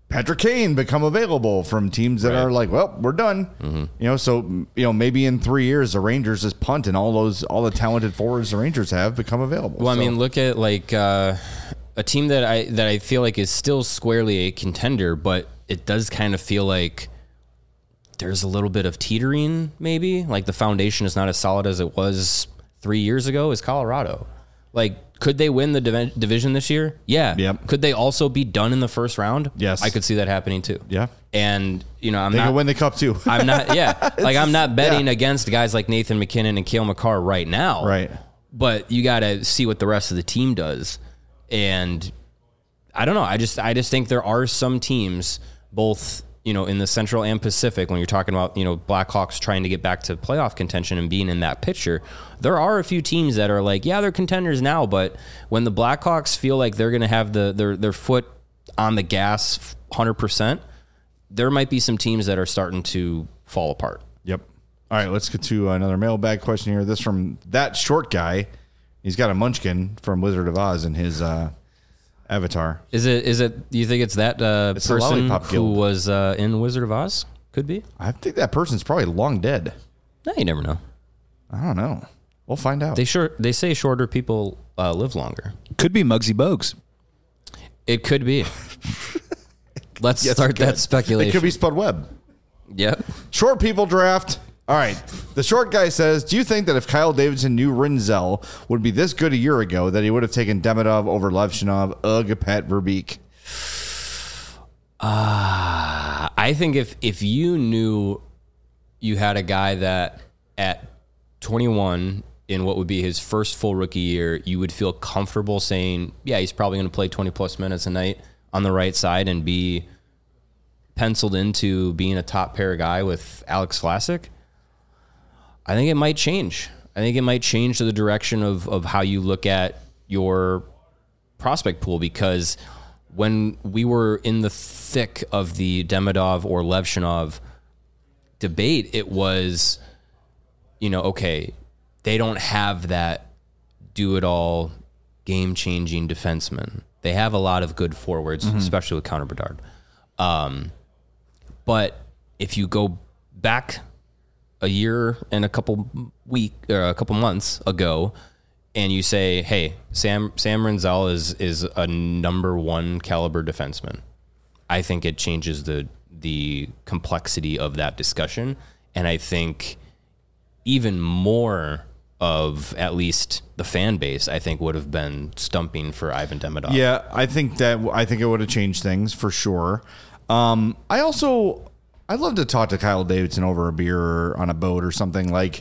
Patrick Kane become available from teams that Right. are like, well, we're done. Mm-hmm. You know, so you know maybe in three years the Rangers just punt and all those all the talented forwards the Rangers have become available. Well, so. I mean, look at like uh, a team that I that I feel like is still squarely a contender, but it does kind of feel like there's a little bit of teetering. Maybe like the foundation is not as solid as it was three years ago. Is Colorado like? Could they win the div- division this year? Yeah. Yep. Could they also be done in the first round? Yes. I could see that happening too. Yeah. And you know, I'm They not can win the cup too. I'm not. Yeah. Like I'm not betting yeah. against guys like Nathan McKinnon and Cale Makar right now. Right. But you got to see what the rest of the team does. And I don't know. I just I just think there are some teams, both you know in the Central and Pacific, when you're talking about you know Blackhawks trying to get back to playoff contention and being in that picture. There are a few teams that are like, yeah, they're contenders now, but when the Blackhawks feel like they're going to have the their their foot on the gas one hundred percent, there might be some teams that are starting to fall apart. Yep. All right, let's get to another mailbag question here. This from that short guy. He's got a munchkin from Wizard of Oz in his uh, avatar. Is it? Is it? Do you think it's that uh, It's the person Lollipop who Guild. was uh, in Wizard of Oz? Could be. I think that person's probably long dead. No, you never know. I don't know. We'll find out. They short. They say shorter people uh, live longer. Could be Muggsy Bogues. It could be. Let's Yes, start it could. that speculation. It could be Spud Webb. Yep. Short people draft. All right. The short guy says, do you think that if Kyle Davidson knew Rinzel would be this good a year ago, that he would have taken Demidov over Levshinov, ugh, Pat Verbeek? Uh, I think if if you knew you had a guy that at twenty-one in what would be his first full rookie year, you would feel comfortable saying, yeah, he's probably going to play twenty plus minutes a night on the right side and be penciled into being a top pair guy with Alex Vlasic, I think it might change. I think it might change to the direction of, of how you look at your prospect pool, because when we were in the thick of the Demidov or Levshinov debate, it was, you know, okay, they don't have that do-it-all, game-changing defenseman. They have a lot of good forwards, mm-hmm. especially with Connor Bedard. Um, but if you go back a year and a couple week or a couple months ago, and you say, "Hey, Sam Sam Rinzel is is a number one caliber defenseman," I think it changes the the complexity of that discussion, and I think even more of at least the fan base, I think, would have been stumping for Ivan Demidov. Yeah, I think that I think it would have changed things for sure. Um, I also I'd love to talk to Kyle Davidson over a beer or on a boat or something. Like,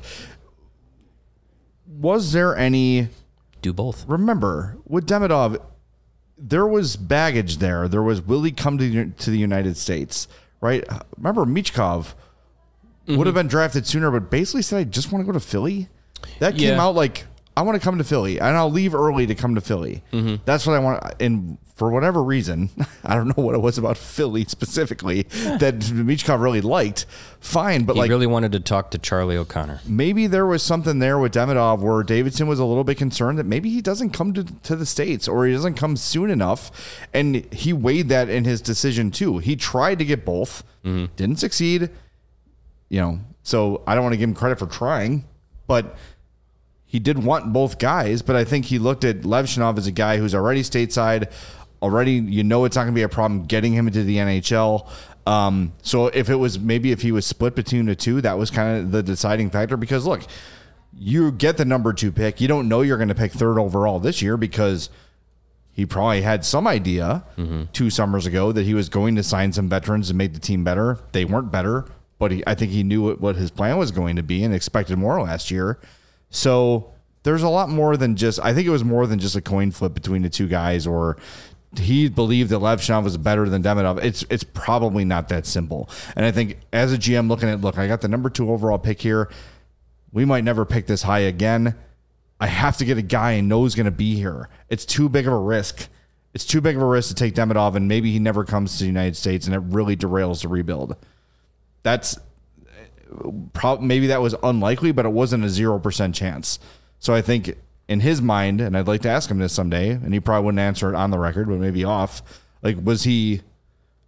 was there any? Do both. Remember with Demidov, there was baggage there. There was, will he come to the, to the United States? Right? Remember Michkov mm-hmm. would have been drafted sooner, but basically said, I just want to go to Philly. That came Yeah. out like, I want to come to Philly, and I'll leave early to come to Philly. Mm-hmm. That's what I want. And for whatever reason, I don't know what it was about Philly specifically that Michkov really liked. Fine, but He like really wanted to talk to Charlie O'Connor. maybe there was something there with Demidov where Davidson was a little bit concerned that maybe he doesn't come to, to the States, or he doesn't come soon enough. And he weighed that in his decision too. He tried to get both, mm-hmm. didn't succeed. You know, so I don't want to give him credit for trying, but he did want both guys. But I think he looked at Levshinov as a guy who's already stateside, already, you know, it's not going to be a problem getting him into the N H L. Um, so if it was, maybe if he was split between the two, that was kind of the deciding factor, because look, you get the number two pick. You don't know you're going to pick third overall this year, because he probably had some idea mm-hmm. two summers ago that he was going to sign some veterans and make the team better. They weren't better, but he, I think he knew what, what his plan was going to be and expected more last year. So there's a lot more than just, I think it was more than just a coin flip between the two guys, or he believed that Levshinov was better than Demidov. It's it's probably not that simple. And I think as a G M looking at, look, I got the number two overall pick here. We might never pick this high again. I have to get a guy I know is going to be here. It's too big of a risk. It's too big of a risk to take Demidov, and maybe he never comes to the United States, and it really derails the rebuild. That's Pro- maybe that was unlikely, but it wasn't a zero percent chance. So I think in his mind, and I'd like to ask him this someday, and he probably wouldn't answer it on the record, but maybe off, like, was he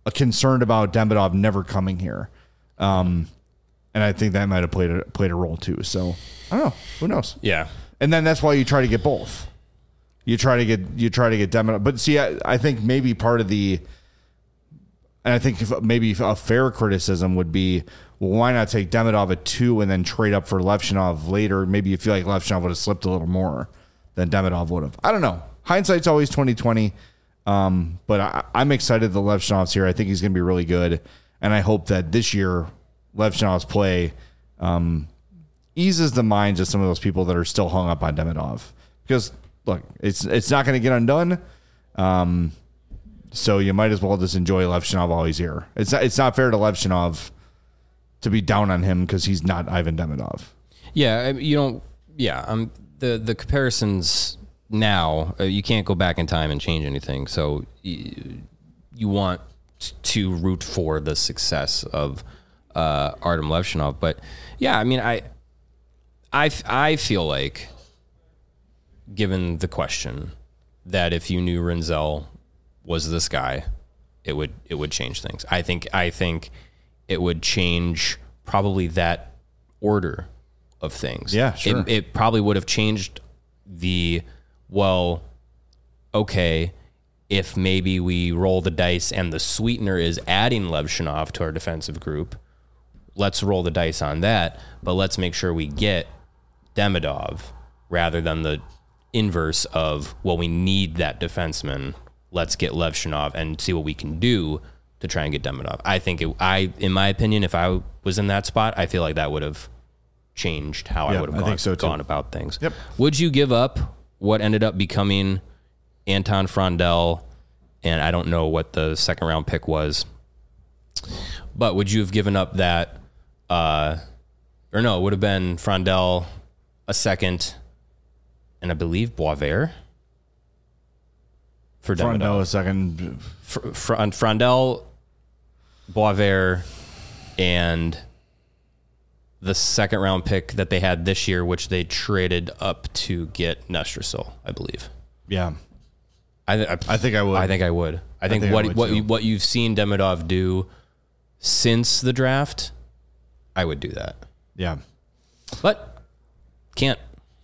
concerned about Demidov never coming here. Um, and I think that might have played a, played a role too. So I don't know. Who knows? Yeah. And then that's why you try to get both. You try to get you try to get Demidov. But see, I, I think maybe part of the, and I think if, maybe a fair criticism would be, well, why not take Demidov at two and then trade up for Levchinov later? Maybe you feel like Levchinov would have slipped a little more than Demidov would have. I don't know. Hindsight's always twenty twenty. Um, but I, I'm excited that Levchinov's here. I think he's going to be really good. And I hope that this year, Levchinov's play um, eases the minds of some of those people that are still hung up on Demidov. Because, look, it's it's not going to get undone. Um, so you might as well just enjoy Levchinov while he's here. It's not, it's not fair to Levchinov to be down on him because he's not Ivan Demidov. Yeah, you don't. Yeah, um, the the comparisons now, uh, you can't go back in time and change anything. So you, you want to root for the success of uh, Artem Levchinov. But yeah, I mean, I, I, I feel like, given the question, that if you knew Rinzel was this guy, it would it would change things. I think I think it would change probably that order of things. Yeah, sure. It, it probably would have changed the, well, okay, if maybe we roll the dice and the sweetener is adding Levchinov to our defensive group, let's roll the dice on that, but let's make sure we get Demidov rather than the inverse of, well, we need that defenseman. Let's get Levchinov and see what we can do to try and get Demidov. I think, it, I, in my opinion, if I was in that spot, I feel like that would have changed how Yeah, I would have I gone, think so too. gone about things. Yep. Would you give up what ended up becoming Anton Frondel, and I don't know what the second round pick was, but would you have given up that, uh, or no, it would have been Frondel, a second, and I believe Boisvert for Demidov. Frondel a second. Fr- Fr- Frondel, Boisvert, and the second round pick that they had this year, which they traded up to get Nestrasil, I believe. Yeah. I, th- I, I think I would. I think I would. I think, think I what would what too. you, what you've seen Demidov do since the draft, I would do that. Yeah. But can't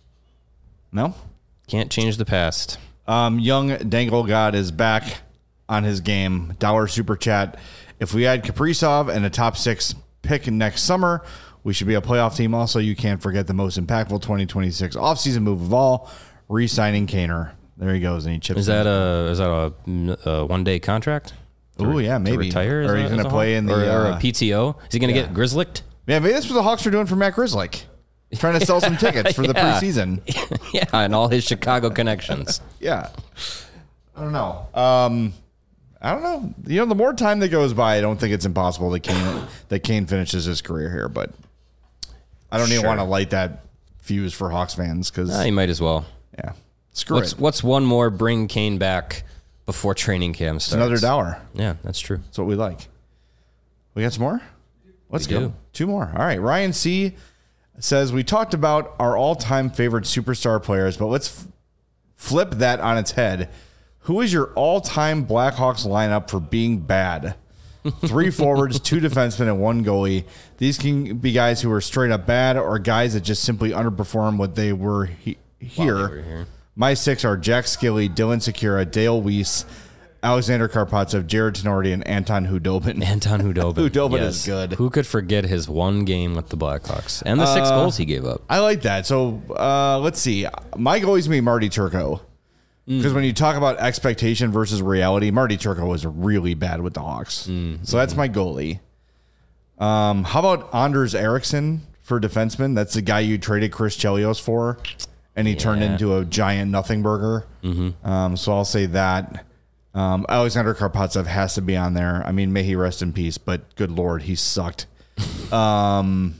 No? can't change the past. Um, young Dangle God is back on his game. Dollar super chat. If we add Kaprizov and a top six pick next summer, we should be a playoff team. Also, you can't forget the most impactful twenty twenty-six offseason move of all, re-signing Kaner. There he goes, and he chips. Is that a is that a, a one day contract? Oh yeah, maybe. To retire? Or Is he's that- going is to a play Hawk? in the or, or uh, a P T O. Is he going to yeah. get Grizzlicked? Yeah, maybe that's what the Hawks are doing for Matt Grizzlick. Trying to sell some tickets for the Yeah. preseason. Yeah, and all his Chicago connections. Yeah. I don't know. Um, I don't know. You know, the more time that goes by, I don't think it's impossible that Kane that Kane finishes his career here. But I don't even Sure. want to light that fuse for Hawks fans because Ah, you might as well. yeah, screw What's it. what's one more bring Kane back before training camp starts? Another dollar. Yeah, that's true. That's what we like. We got some more? Let's We go. do. Two more. All right. Ryan C. says, we talked about our all-time favorite superstar players, but let's f- flip that on its head. Who is your all-time Blackhawks lineup for being bad? Three forwards, two defensemen, and one goalie. These can be guys who are straight up bad or guys that just simply underperform what they were he- here. While they were here. My six are Jack Skilly, Dylan Sekura, Dale Weiss, Alexander Karpatsev, Jared Tenorti, and Anton Hudobin. Anton Hudobin. Hudobin is good. Who could forget his one game with the Blackhawks and the six Uh, goals he gave up? I like that. So uh, let's see. My goalie's going to be Marty Turco. Because when you talk about expectation versus reality, Marty Turco was really bad with the Hawks. So that's my goalie. Um, how about Anders Eriksson for defenseman? That's the guy you traded Chris Chelios for, and he turned Yeah. into a giant nothing burger. Um, so I'll say that. Um, Alexander Karpatsev has to be on there. I mean, may he rest in peace, but good Lord, he sucked. um,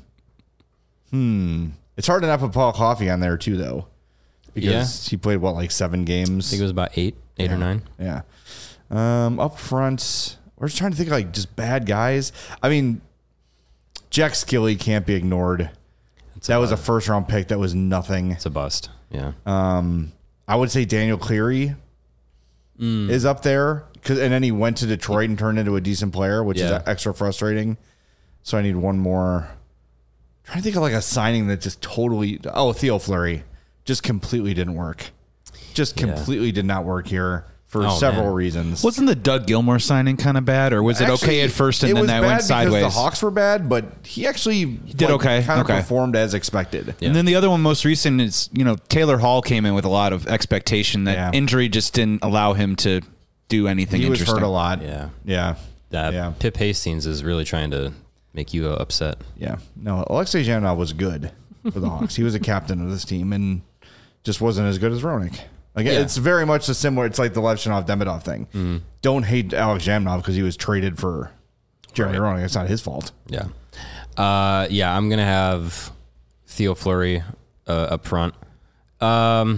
hmm. It's hard enough with Paul Coffey on there, too, though. Because he played, what, like seven games? I think it was about eight, eight yeah. or nine. Yeah. Um, up front, we're just trying to think of like just bad guys. I mean, Jack Skilly can't be ignored. It's That a, was a first round pick. That was nothing. It's a bust. Yeah. Um, I would say Daniel Cleary. mm. is up there. And then he went to Detroit and turned into a decent player, which yeah. is extra frustrating. So I need one more. I'm trying to think of like a signing that just totally. Oh, Theo Fleury just completely didn't work. Just completely yeah. did not work here for oh, several man. reasons. Wasn't the Doug Gilmour signing kind of bad, or was it actually, okay at first and then that went sideways? The Hawks were bad, but he actually he did like, okay. Kind of okay. performed as expected. Yeah. And then the other one, most recent, is you know Taylor Hall came in with a lot of expectation that yeah. injury just didn't allow him to do anything. He was interesting. hurt a lot. Yeah, yeah. That yeah. Pip Hastings is really trying to make you uh, upset. Yeah, no, Alexei Zhanov was good for the Hawks. He was a captain of this team and just wasn't as good as Roenick. Again, yeah. it's very much the similar. It's like the Levchinov Demidov thing. Mm. Don't hate Alex Zhamnov because he was traded for Jeremy right. Roenick. It's not his fault. Yeah, uh, yeah. I'm gonna have Theo Fleury uh, up front. Um,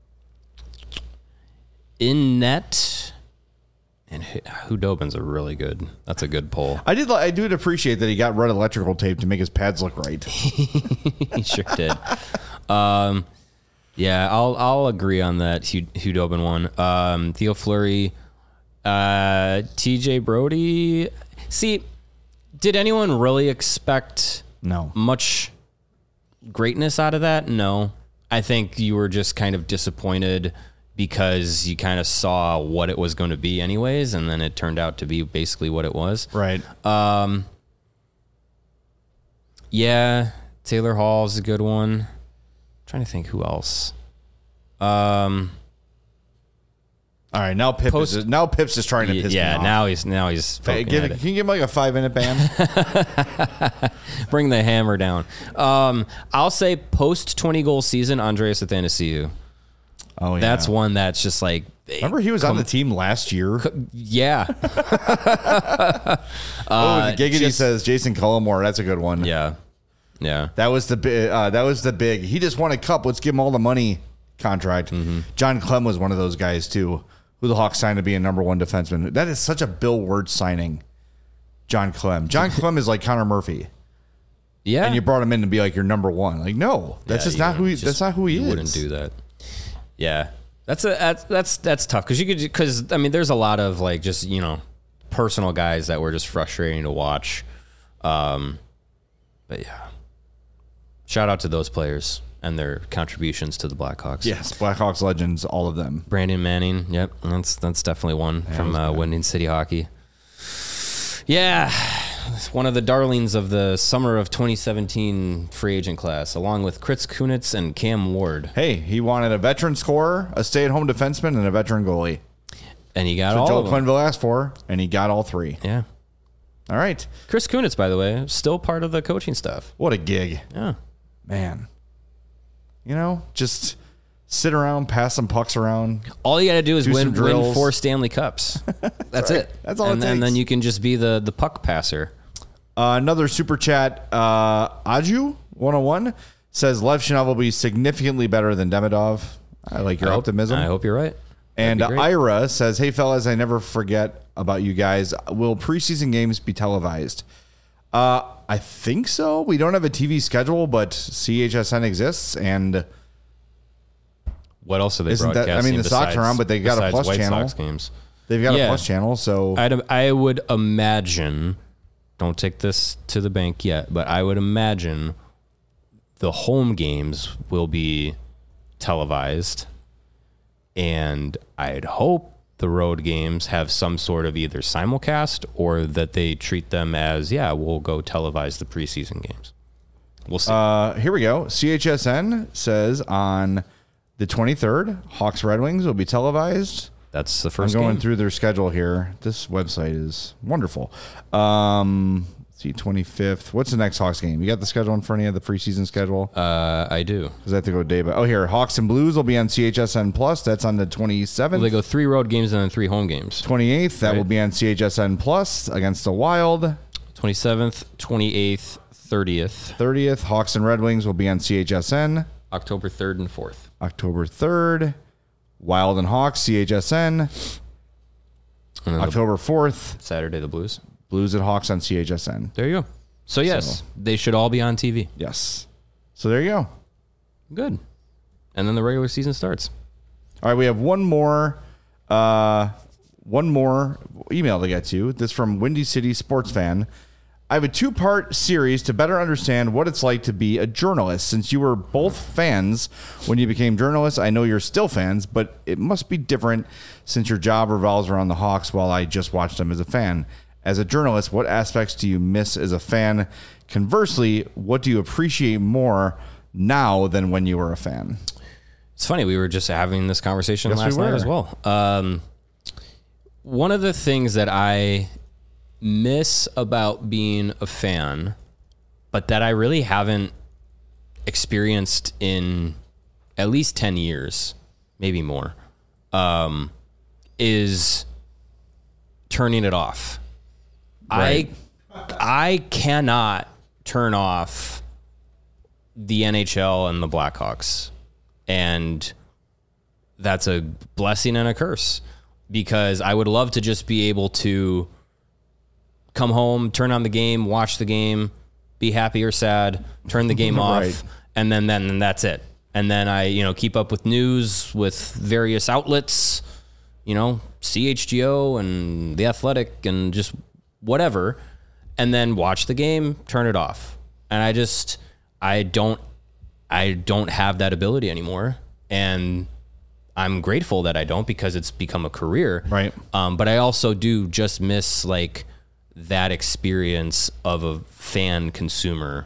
in net. And Hudobin's a really good. That's a good pull. I did. I do appreciate that he got red electrical tape to make his pads look right. He sure did. Um, yeah, I'll I'll agree on that Hudobin one. Um, Theo Fleury, uh, T J Brody. See, did anyone really expect no much greatness out of that? No, I think you were just kind of disappointed. Because you kind of saw what it was going to be anyways, and then it turned out to be basically what it was. Right. Um, yeah, Taylor Hall's a good one. I'm trying to think who else. Um, All right, now Pip Post, is now Pip's just trying to piss yeah, me off. Yeah, now he's now he's hey, give, at it. Can you give him like a five minute ban? Bring the hammer down. Um, I'll say post twenty goal season, Andreas Athanasiou. Oh, yeah. That's one that's just like... Remember he was com- on the team last year? Yeah. uh, oh, the Giggity just, says Jason Cullimore. That's a good one. Yeah. Yeah. That was the big, uh, that was the big, he just won a cup. Let's give him all the money contract. Mm-hmm. John Clem was one of those guys too, who the Hawks signed to be a number one defenseman. That is such a Bill Wirtz signing. John Clem. John Clem is like Connor Murphy. Yeah. And you brought him in to be like your number one. Like, no, that's yeah, just not who he, just, that's not who he you is. You wouldn't do that. Yeah, that's a that's that's, that's tough because you could because I mean there's a lot of like just you know personal guys that were just frustrating to watch, um, but yeah, shout out to those players and their contributions to the Blackhawks. Yes, Blackhawks legends, all of them. Brandon Manning, yep, that's that's definitely one yeah, from uh, Windy City Hockey. Yeah. One of the darlings of the summer of twenty seventeen free agent class, along with Chris Kunitz and Cam Ward. Hey, he wanted a veteran scorer, a stay-at-home defenseman, and a veteran goalie. And he got so all Joel of them. Quenneville asked for, and he got all three. Yeah. All right. Chris Kunitz, by the way, still part of the coaching staff. What a gig. Yeah. Man. You know, just sit around, pass some pucks around. All you got to do is do win, win four Stanley Cups. That's right. it. That's all and it then, takes. And then you can just be the, the puck passer. Uh, another super chat, uh, Aju one oh one says Levchinov will be significantly better than Demidov. I like your I optimism. Hope, I hope you're right. And Ira says, hey, fellas, I never forget about you guys. Will preseason games be televised? Uh, I think so. We don't have a T V schedule, but C H S N exists. And what else are they isn't broadcasting? That, I mean, the besides, Sox are on, but they got a plus White channel. Sox games. They've got yeah. a plus channel. So I'd, I would imagine... Don't take this to the bank yet, but I would imagine the home games will be televised, and I'd hope the road games have some sort of either simulcast or that they treat them as, yeah, we'll go televise the preseason games. We'll see. Uh, here we go. C H S N says on the twenty-third, Hawks Red Wings will be televised. That's the first I'm going game. through their schedule here. This website is wonderful. Um, let's see, twenty-fifth. What's the next Hawks game? You got the schedule in front of you, the preseason schedule? Uh, I do. Because I have to go day by. Oh, here. Hawks and Blues will be on C H S N Plus. That's on the twenty-seventh. Well, they go three road games and then three home games. twenty-eighth. That right. will be on C H S N Plus against the Wild. twenty-seventh, twenty-eighth, thirtieth. thirtieth. Hawks and Red Wings will be on C H S N. October third and fourth. October third. Wild and Hawks, C H S N. October fourth. Saturday, the Blues. Blues and Hawks on C H S N. There you go. So, yes, so, they should all be on T V. Yes. So, there you go. Good. And then the regular season starts. All right, we have one more Uh, one more email to get to. This from Windy City Sports Fan. I have a two-part series to better understand what it's like to be a journalist. Since you were both fans when you became journalists, I know you're still fans, but it must be different since your job revolves around the Hawks while I just watched them as a fan. As a journalist, what aspects do you miss as a fan? Conversely, what do you appreciate more now than when you were a fan? It's funny. We were just having this conversation yes, last we night as well. Um, one of the things that I miss about being a fan, but that I really haven't experienced in at least ten years, maybe more, um, is turning it off. Right. I I cannot turn off the N H L and the Blackhawks. And that's a blessing and a curse, because I would love to just be able to come home, turn on the game, watch the game, be happy or sad, turn the game off, right. and then then and that's it. And then I, you know, keep up with news with various outlets, you know, C H G O and The Athletic and just whatever, and then watch the game, turn it off. And I just I don't I don't have that ability anymore. And I'm grateful that I don't, because it's become a career. Right. Um, but I also do just miss like that experience of a fan consumer.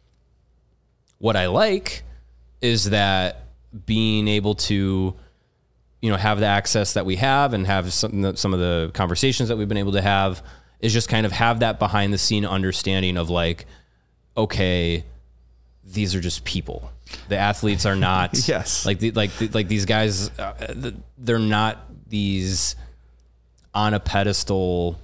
What I like is that being able to, you know, have the access that we have and have some, some of the conversations that we've been able to have is just kind of have that behind the scene understanding of like, okay, these are just people. The athletes are not yes. like the, like the, like these guys. Uh, they're not these on a pedestal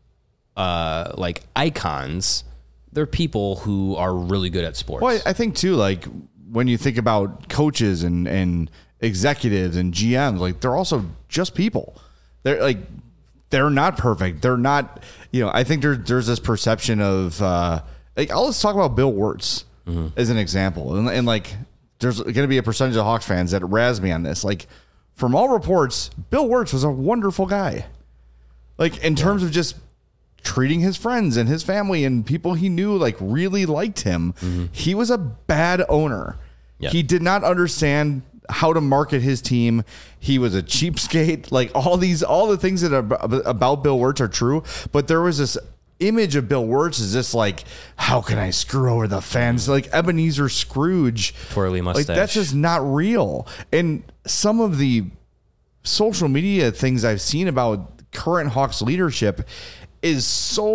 uh, like icons. They're people who are really good at sports. Well, I think too, like when you think about coaches and and executives and G Ms, like they're also just people. They're like they're not perfect. They're not. You know, I think there, there's this perception of uh, like I'll let's talk about Bill Wirtz. Mm-hmm. As an example, and, and like there's going to be a percentage of Hawks fans that razz me on this. Like, from all reports, Bill Wirtz was a wonderful guy. Like, in yeah. terms of just treating his friends and his family and people he knew, like, really liked him. Mm-hmm. He was a bad owner. Yep. He did not understand how to market his team. He was a cheapskate. Like, all these, all the things that are about Bill Wirtz are true, but there was this image of Bill Wirtz is just like, how can I screw over the fans? Like Ebenezer Scrooge. Twirly mustache. Like that's just not real. And some of the social media things I've seen about current Hawks leadership is so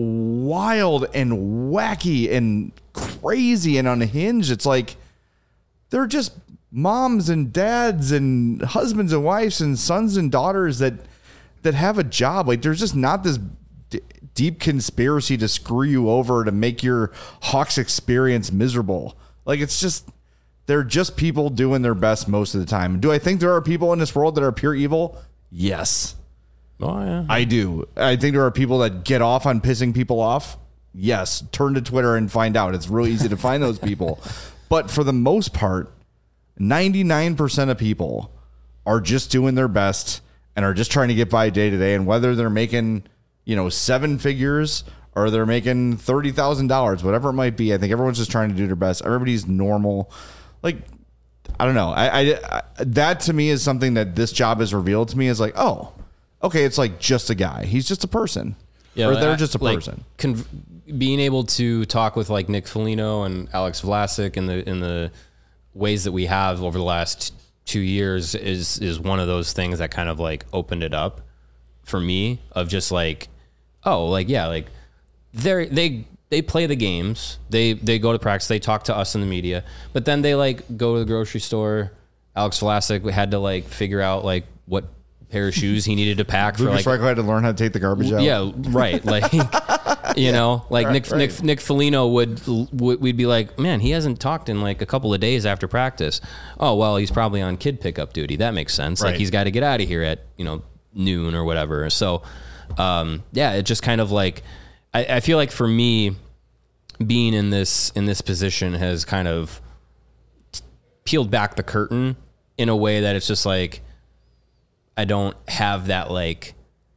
wild and wacky and crazy and unhinged. It's like they're just moms and dads and husbands and wives and sons and daughters that that have a job. Like there's just not this deep conspiracy to screw you over to make your Hawks experience miserable. Like it's just, they're just people doing their best most of the time. Do I think there are people in this world that are pure evil? Yes. Oh, yeah. I do. I think there are people that get off on pissing people off. Yes. Turn to Twitter and find out. It's really easy to find those people. But for the most part, ninety-nine percent of people are just doing their best and are just trying to get by day to day. And whether they're making, you know, seven figures or they're making thirty thousand dollars, whatever it might be. I think everyone's just trying to do their best. Everybody's normal. Like, I don't know. I, I, I that to me is something that this job has revealed to me is like, oh, okay. It's like just a guy. He's just a person. Yeah. Or they're just a like, person. Con- being able to talk with like Nick Foligno and Alex Vlasic in the, in the ways that we have over the last two years is, is one of those things that kind of like opened it up for me of just like, oh, like, yeah, like they they they play the games. They they go to practice. They talk to us in the media. But then they like go to the grocery store. Alex Vlasic had to like figure out like what pair of shoes he needed to pack for Lucas like. Reichel had to learn how to take the garbage out. Yeah, right. Like, you yeah, know, like right, Nick, right. Nick Nick Foligno would, would we'd be like, man, he hasn't talked in like a couple of days after practice. Oh well, he's probably on kid pickup duty. That makes sense. Right. Like he's got to get out of here at you know noon or whatever. So, um, yeah, it just kind of like, I, I feel like for me, being in this in this position has kind of peeled back the curtain in a way that it's just like, I don't have that like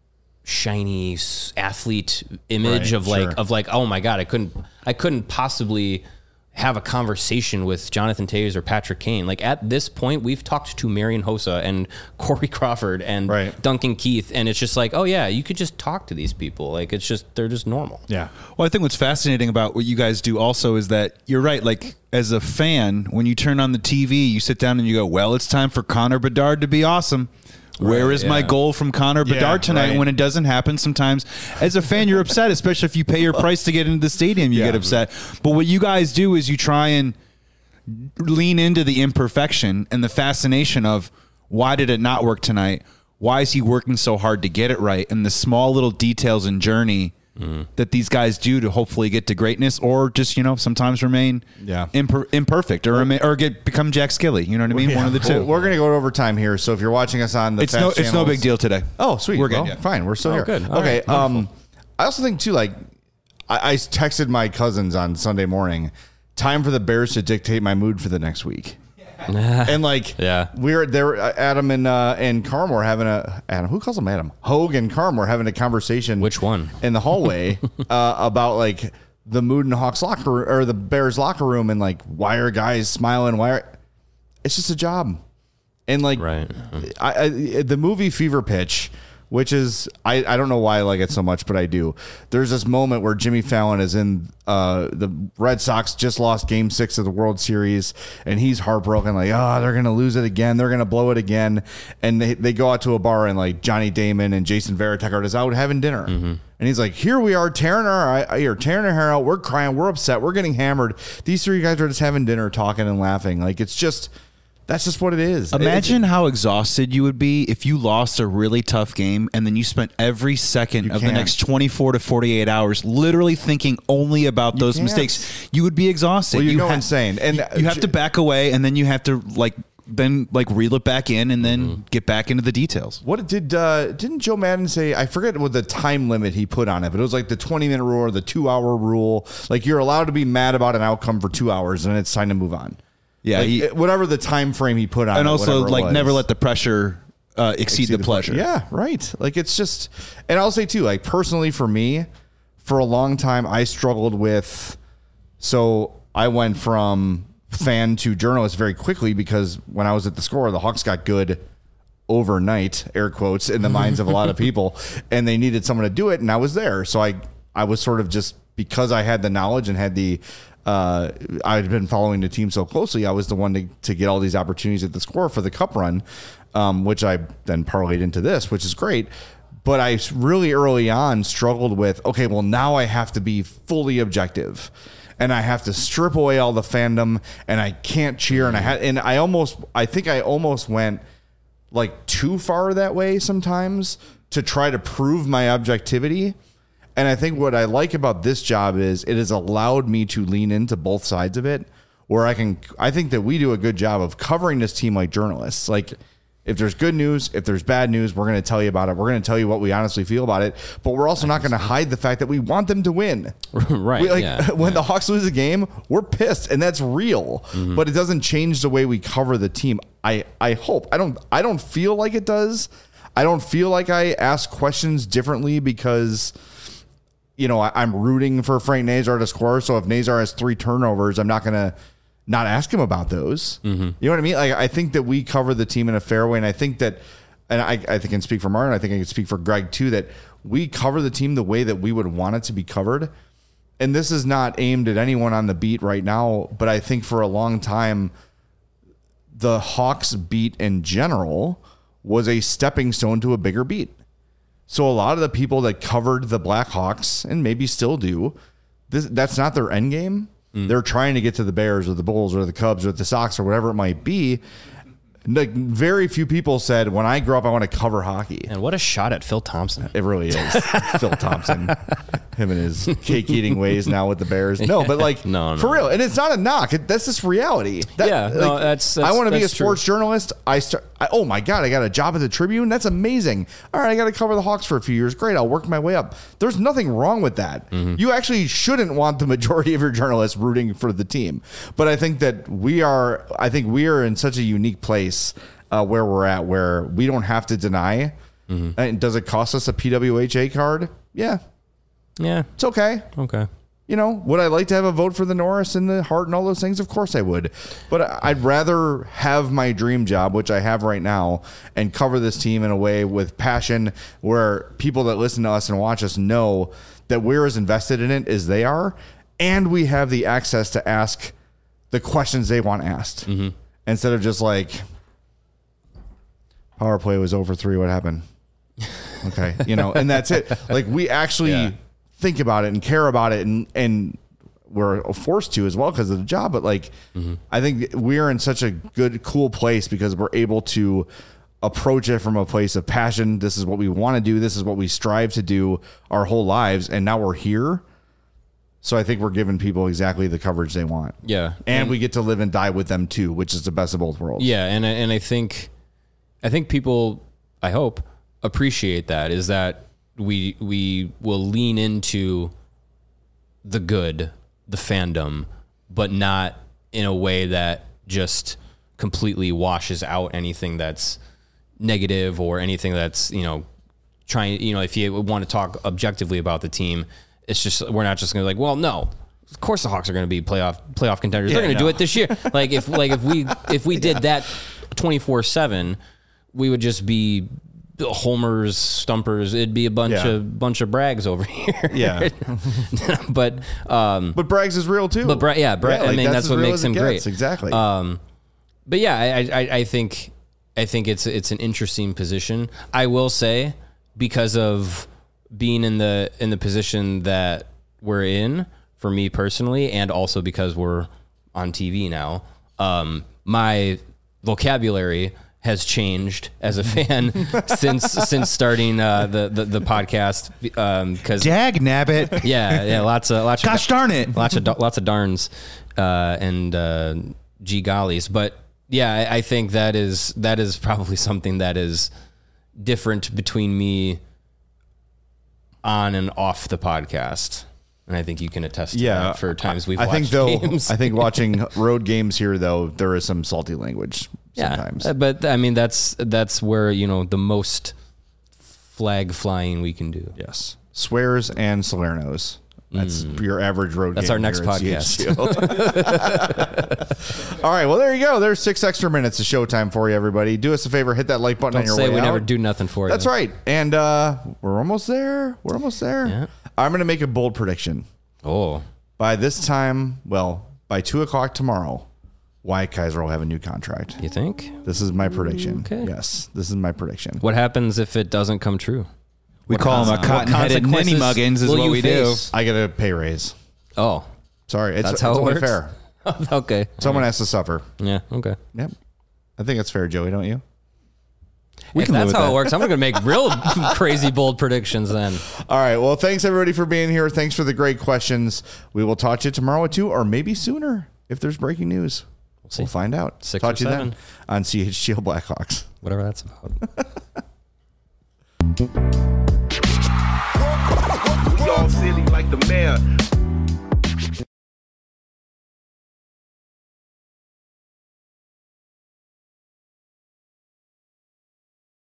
shiny athlete image right, of like, sure. of like, oh my God, I couldn't, I couldn't possibly have a conversation with Jonathan Toews or Patrick Kane. Like at this point, we've talked to Marian Hossa and Corey Crawford and right. Duncan Keith. And it's just like, oh yeah, you could just talk to these people. Like it's just, they're just normal. Yeah. Well, I think what's fascinating about what you guys do also is that you're right. Like as a fan, when you turn on the T V, you sit down and you go, well, it's time for Connor Bedard to be awesome. Where Right, is yeah. my goal from Connor Bedard Yeah, tonight? right. When it doesn't happen, sometimes as a fan, you're upset, especially if you pay your price to get into the stadium, you Yeah. get upset. But what you guys do is you try and lean into the imperfection and the fascination of why did it not work tonight? Why is he working so hard to get it right? And the small little details and journey mm-hmm. that these guys do to hopefully get to greatness, or just, you know, sometimes remain yeah. imper- imperfect or remain, or get become Jack Skilly. You know what I mean? Yeah. One of the two. Well, we're going to go to overtime here. So if you're watching us on the it's Fast no, it's no channels- big deal today. Oh, sweet. We're good. Well, Yeah. Fine. We're still Oh, here. good. All Okay. right. Um, I also think too, like I, I texted my cousins on Sunday morning, time for the Bears to dictate my mood for the next week. And like, Yeah. we're there. Adam and uh, and Carm were having a Adam. Who calls him Adam? Hogue and Carm were having a conversation. Which one? In the hallway uh, about like the mood in the Hawks locker or the Bears locker room, and like why are guys smiling? Why are it's just a job, and like Right. I, I the movie Fever Pitch. Which is, I, I don't know why I like it so much, but I do. There's this moment where Jimmy Fallon is in, uh, the Red Sox just lost game six of the World Series, and he's heartbroken, like, oh, they're going to lose it again. They're going to blow it again. And they, they go out to a bar, and like Johnny Damon and Jason Varitek are just out having dinner. Mm-hmm. And he's like, here we are tearing our, you're tearing our hair out. We're crying. We're upset. We're getting hammered. These three guys are just having dinner, talking and laughing. Like, it's just... That's just what it is. Imagine it's, how exhausted you would be if you lost a really tough game and then you spent every second of can't. the next twenty-four to forty-eight hours literally thinking only about those can't. mistakes. You would be exhausted. Well, you, you go ha- insane. And you, you have to back away, and then you have to like then like reel it back in and then mm-hmm. get back into the details. What did uh, didn't Joe Madden say? I forget what the time limit he put on it, but it was like the twenty minute rule or the two hour rule. Like you're allowed to be mad about an outcome for two hours, and it's time to move on. Yeah, like, he, whatever the time frame he put on, and it, also like was. never let the pressure uh, exceed, exceed the, the pleasure. Yeah, right. Like it's just, and I'll say too, like personally for me, for a long time I struggled with. So I went from fan to journalist very quickly because when I was at the Score, the Hawks got good overnight, air quotes, in the minds of a lot of people, and they needed someone to do it, and I was there. So I I was sort of just because I had the knowledge and had the. Uh, I'd been following the team so closely. I was the one to, to get all these opportunities at the Score for the Cup run, um, which I then parlayed into this, which is great. But I really early on struggled with, okay, well, now I have to be fully objective and I have to strip away all the fandom and I can't cheer. And I had, and I almost, I think I almost went like too far that way sometimes to try to prove my objectivity. And I think what I like about this job is it has allowed me to lean into both sides of it where I can, I think that we do a good job of covering this team like journalists. Like if there's good news, if there's bad news, we're going to tell you about it. We're going to tell you what we honestly feel about it, but we're also not going to hide the fact that we want them to win. Right. We, like, yeah, when yeah. the Hawks lose a game, we're pissed and that's real, mm-hmm. but it doesn't change the way we cover the team. I, I hope I don't, I don't feel like it does. I don't feel like I ask questions differently because you know, I, I'm rooting for Frank Nazar to score. So if Nazar has three turnovers, I'm not going to not ask him about those. Mm-hmm. You know what I mean? Like, I think that we cover the team in a fair way. And I think that, and I, I think I can speak for Martin. I think I can speak for Greg too, that we cover the team the way that we would want it to be covered. And this is not aimed at anyone on the beat right now, but I think for a long time, the Hawks beat in general was a stepping stone to a bigger beat. So a lot of the people that covered the Blackhawks, and maybe still do, this, that's not their end game. Mm. They're trying to get to the Bears or the Bulls or the Cubs or the Sox or whatever it might be. Like very few people said, when I grow up, I want to cover hockey. And what a shot at Phil Thompson. It really is. Phil Thompson. Him and his cake eating ways now with the Bears. No, but like no, no. for real. And it's not a knock. It, that's just reality. That, yeah, like, no, that's, that's I want to be a true. sports journalist. I start. I, oh my God, I got a job at the Tribune. That's amazing. All right, I got to cover the Hawks for a few years. Great. I'll work my way up. There's nothing wrong with that. Mm-hmm. You actually shouldn't want the majority of your journalists rooting for the team. But I think that we are, I think we are in such a unique place uh, where we're at, where we don't have to deny. Mm-hmm. And does it cost us a P W H A card? Yeah. Yeah. It's okay. Okay. You know, would I like to have a vote for the Norris and the Hart and all those things? Of course I would. But I'd rather have my dream job, which I have right now, and cover this team in a way with passion where people that listen to us and watch us know that we're as invested in it as they are. And we have the access to ask the questions they want asked. Mm-hmm. Instead of just like, power play was over three. What happened? Okay. You know, and that's it. Like, we actually... Yeah. think about it and care about it, and and we're forced to as well because of the job. But like, mm-hmm. I think we're in such a good, cool place because we're able to approach it from a place of passion. This is what we want to do. This is what we strive to do our whole lives. And now we're here. So I think we're giving people exactly the coverage they want. Yeah. And, and we get to live and die with them too, which is the best of both worlds. Yeah. And, and I think, I think people, I hope, appreciate that, is that we we will lean into the good, the fandom, but not in a way that just completely washes out anything that's negative or anything that's, you know, trying, you know, if you want to talk objectively about the team, it's just, we're not just going to like, well, no, of course the Hawks are going to be playoff playoff contenders. Yeah, They're going to no. do it this year. Like if like if we if we did yeah. that twenty-four seven, we would just be homers, stumpers. It'd be a bunch yeah. of bunch of brags over here. Yeah, but um, but brags is real too. But Bra- yeah, Bra- yeah, like I mean that's, that's what makes him great. Exactly. Um, but yeah, I, I I think I think it's it's an interesting position. I will say, because of being in the in the position that we're in, for me personally, and also because we're on T V now, um, my vocabulary has changed as a fan since since starting uh, the, the the podcast. Um, cause dag nabbit. Yeah, yeah, lots of lots. Gosh of, darn it, lots of lots of darns uh, and uh, gee gollies. But yeah, I, I think that is that is probably something that is different between me on and off the podcast. And I think you can attest to yeah, that for times we've I watched think though, games. I think watching road games here, though, there is some salty language sometimes. Yeah, but I mean, that's that's where, you know, the most flag flying we can do. Yes. Swears and Salernos. That's mm. your average road That's game. our next podcast. All right. Well, there you go. There's six extra minutes of showtime for you, everybody. Do us a favor. Hit that like button Don't on your say way we out. never do nothing for you. That's right. And uh, we're almost there. We're almost there. Yeah. I'm going to make a bold prediction. Oh. By this time, well, by two o'clock tomorrow, Wyatt Kaiser will have a new contract. You think? This is my prediction. Okay. Yes, this is my prediction. What happens if it doesn't come true? We what call him a cotton-headed ninny muggins is what we face? do. I get a pay raise. Oh. Sorry. It's, That's how it's it only works? fair. Okay. Someone has to suffer. Yeah. Okay. Yep. I think it's fair, Joey, don't you? We if that's how that. it works, I'm going to make real crazy, bold predictions then. All right. Well, thanks, everybody, for being here. Thanks for the great questions. We will talk to you tomorrow at two, or maybe sooner if there's breaking news. We'll, see. we'll find out. Six talk or to you seven. then on C H G O Blackhawks. Whatever that's about.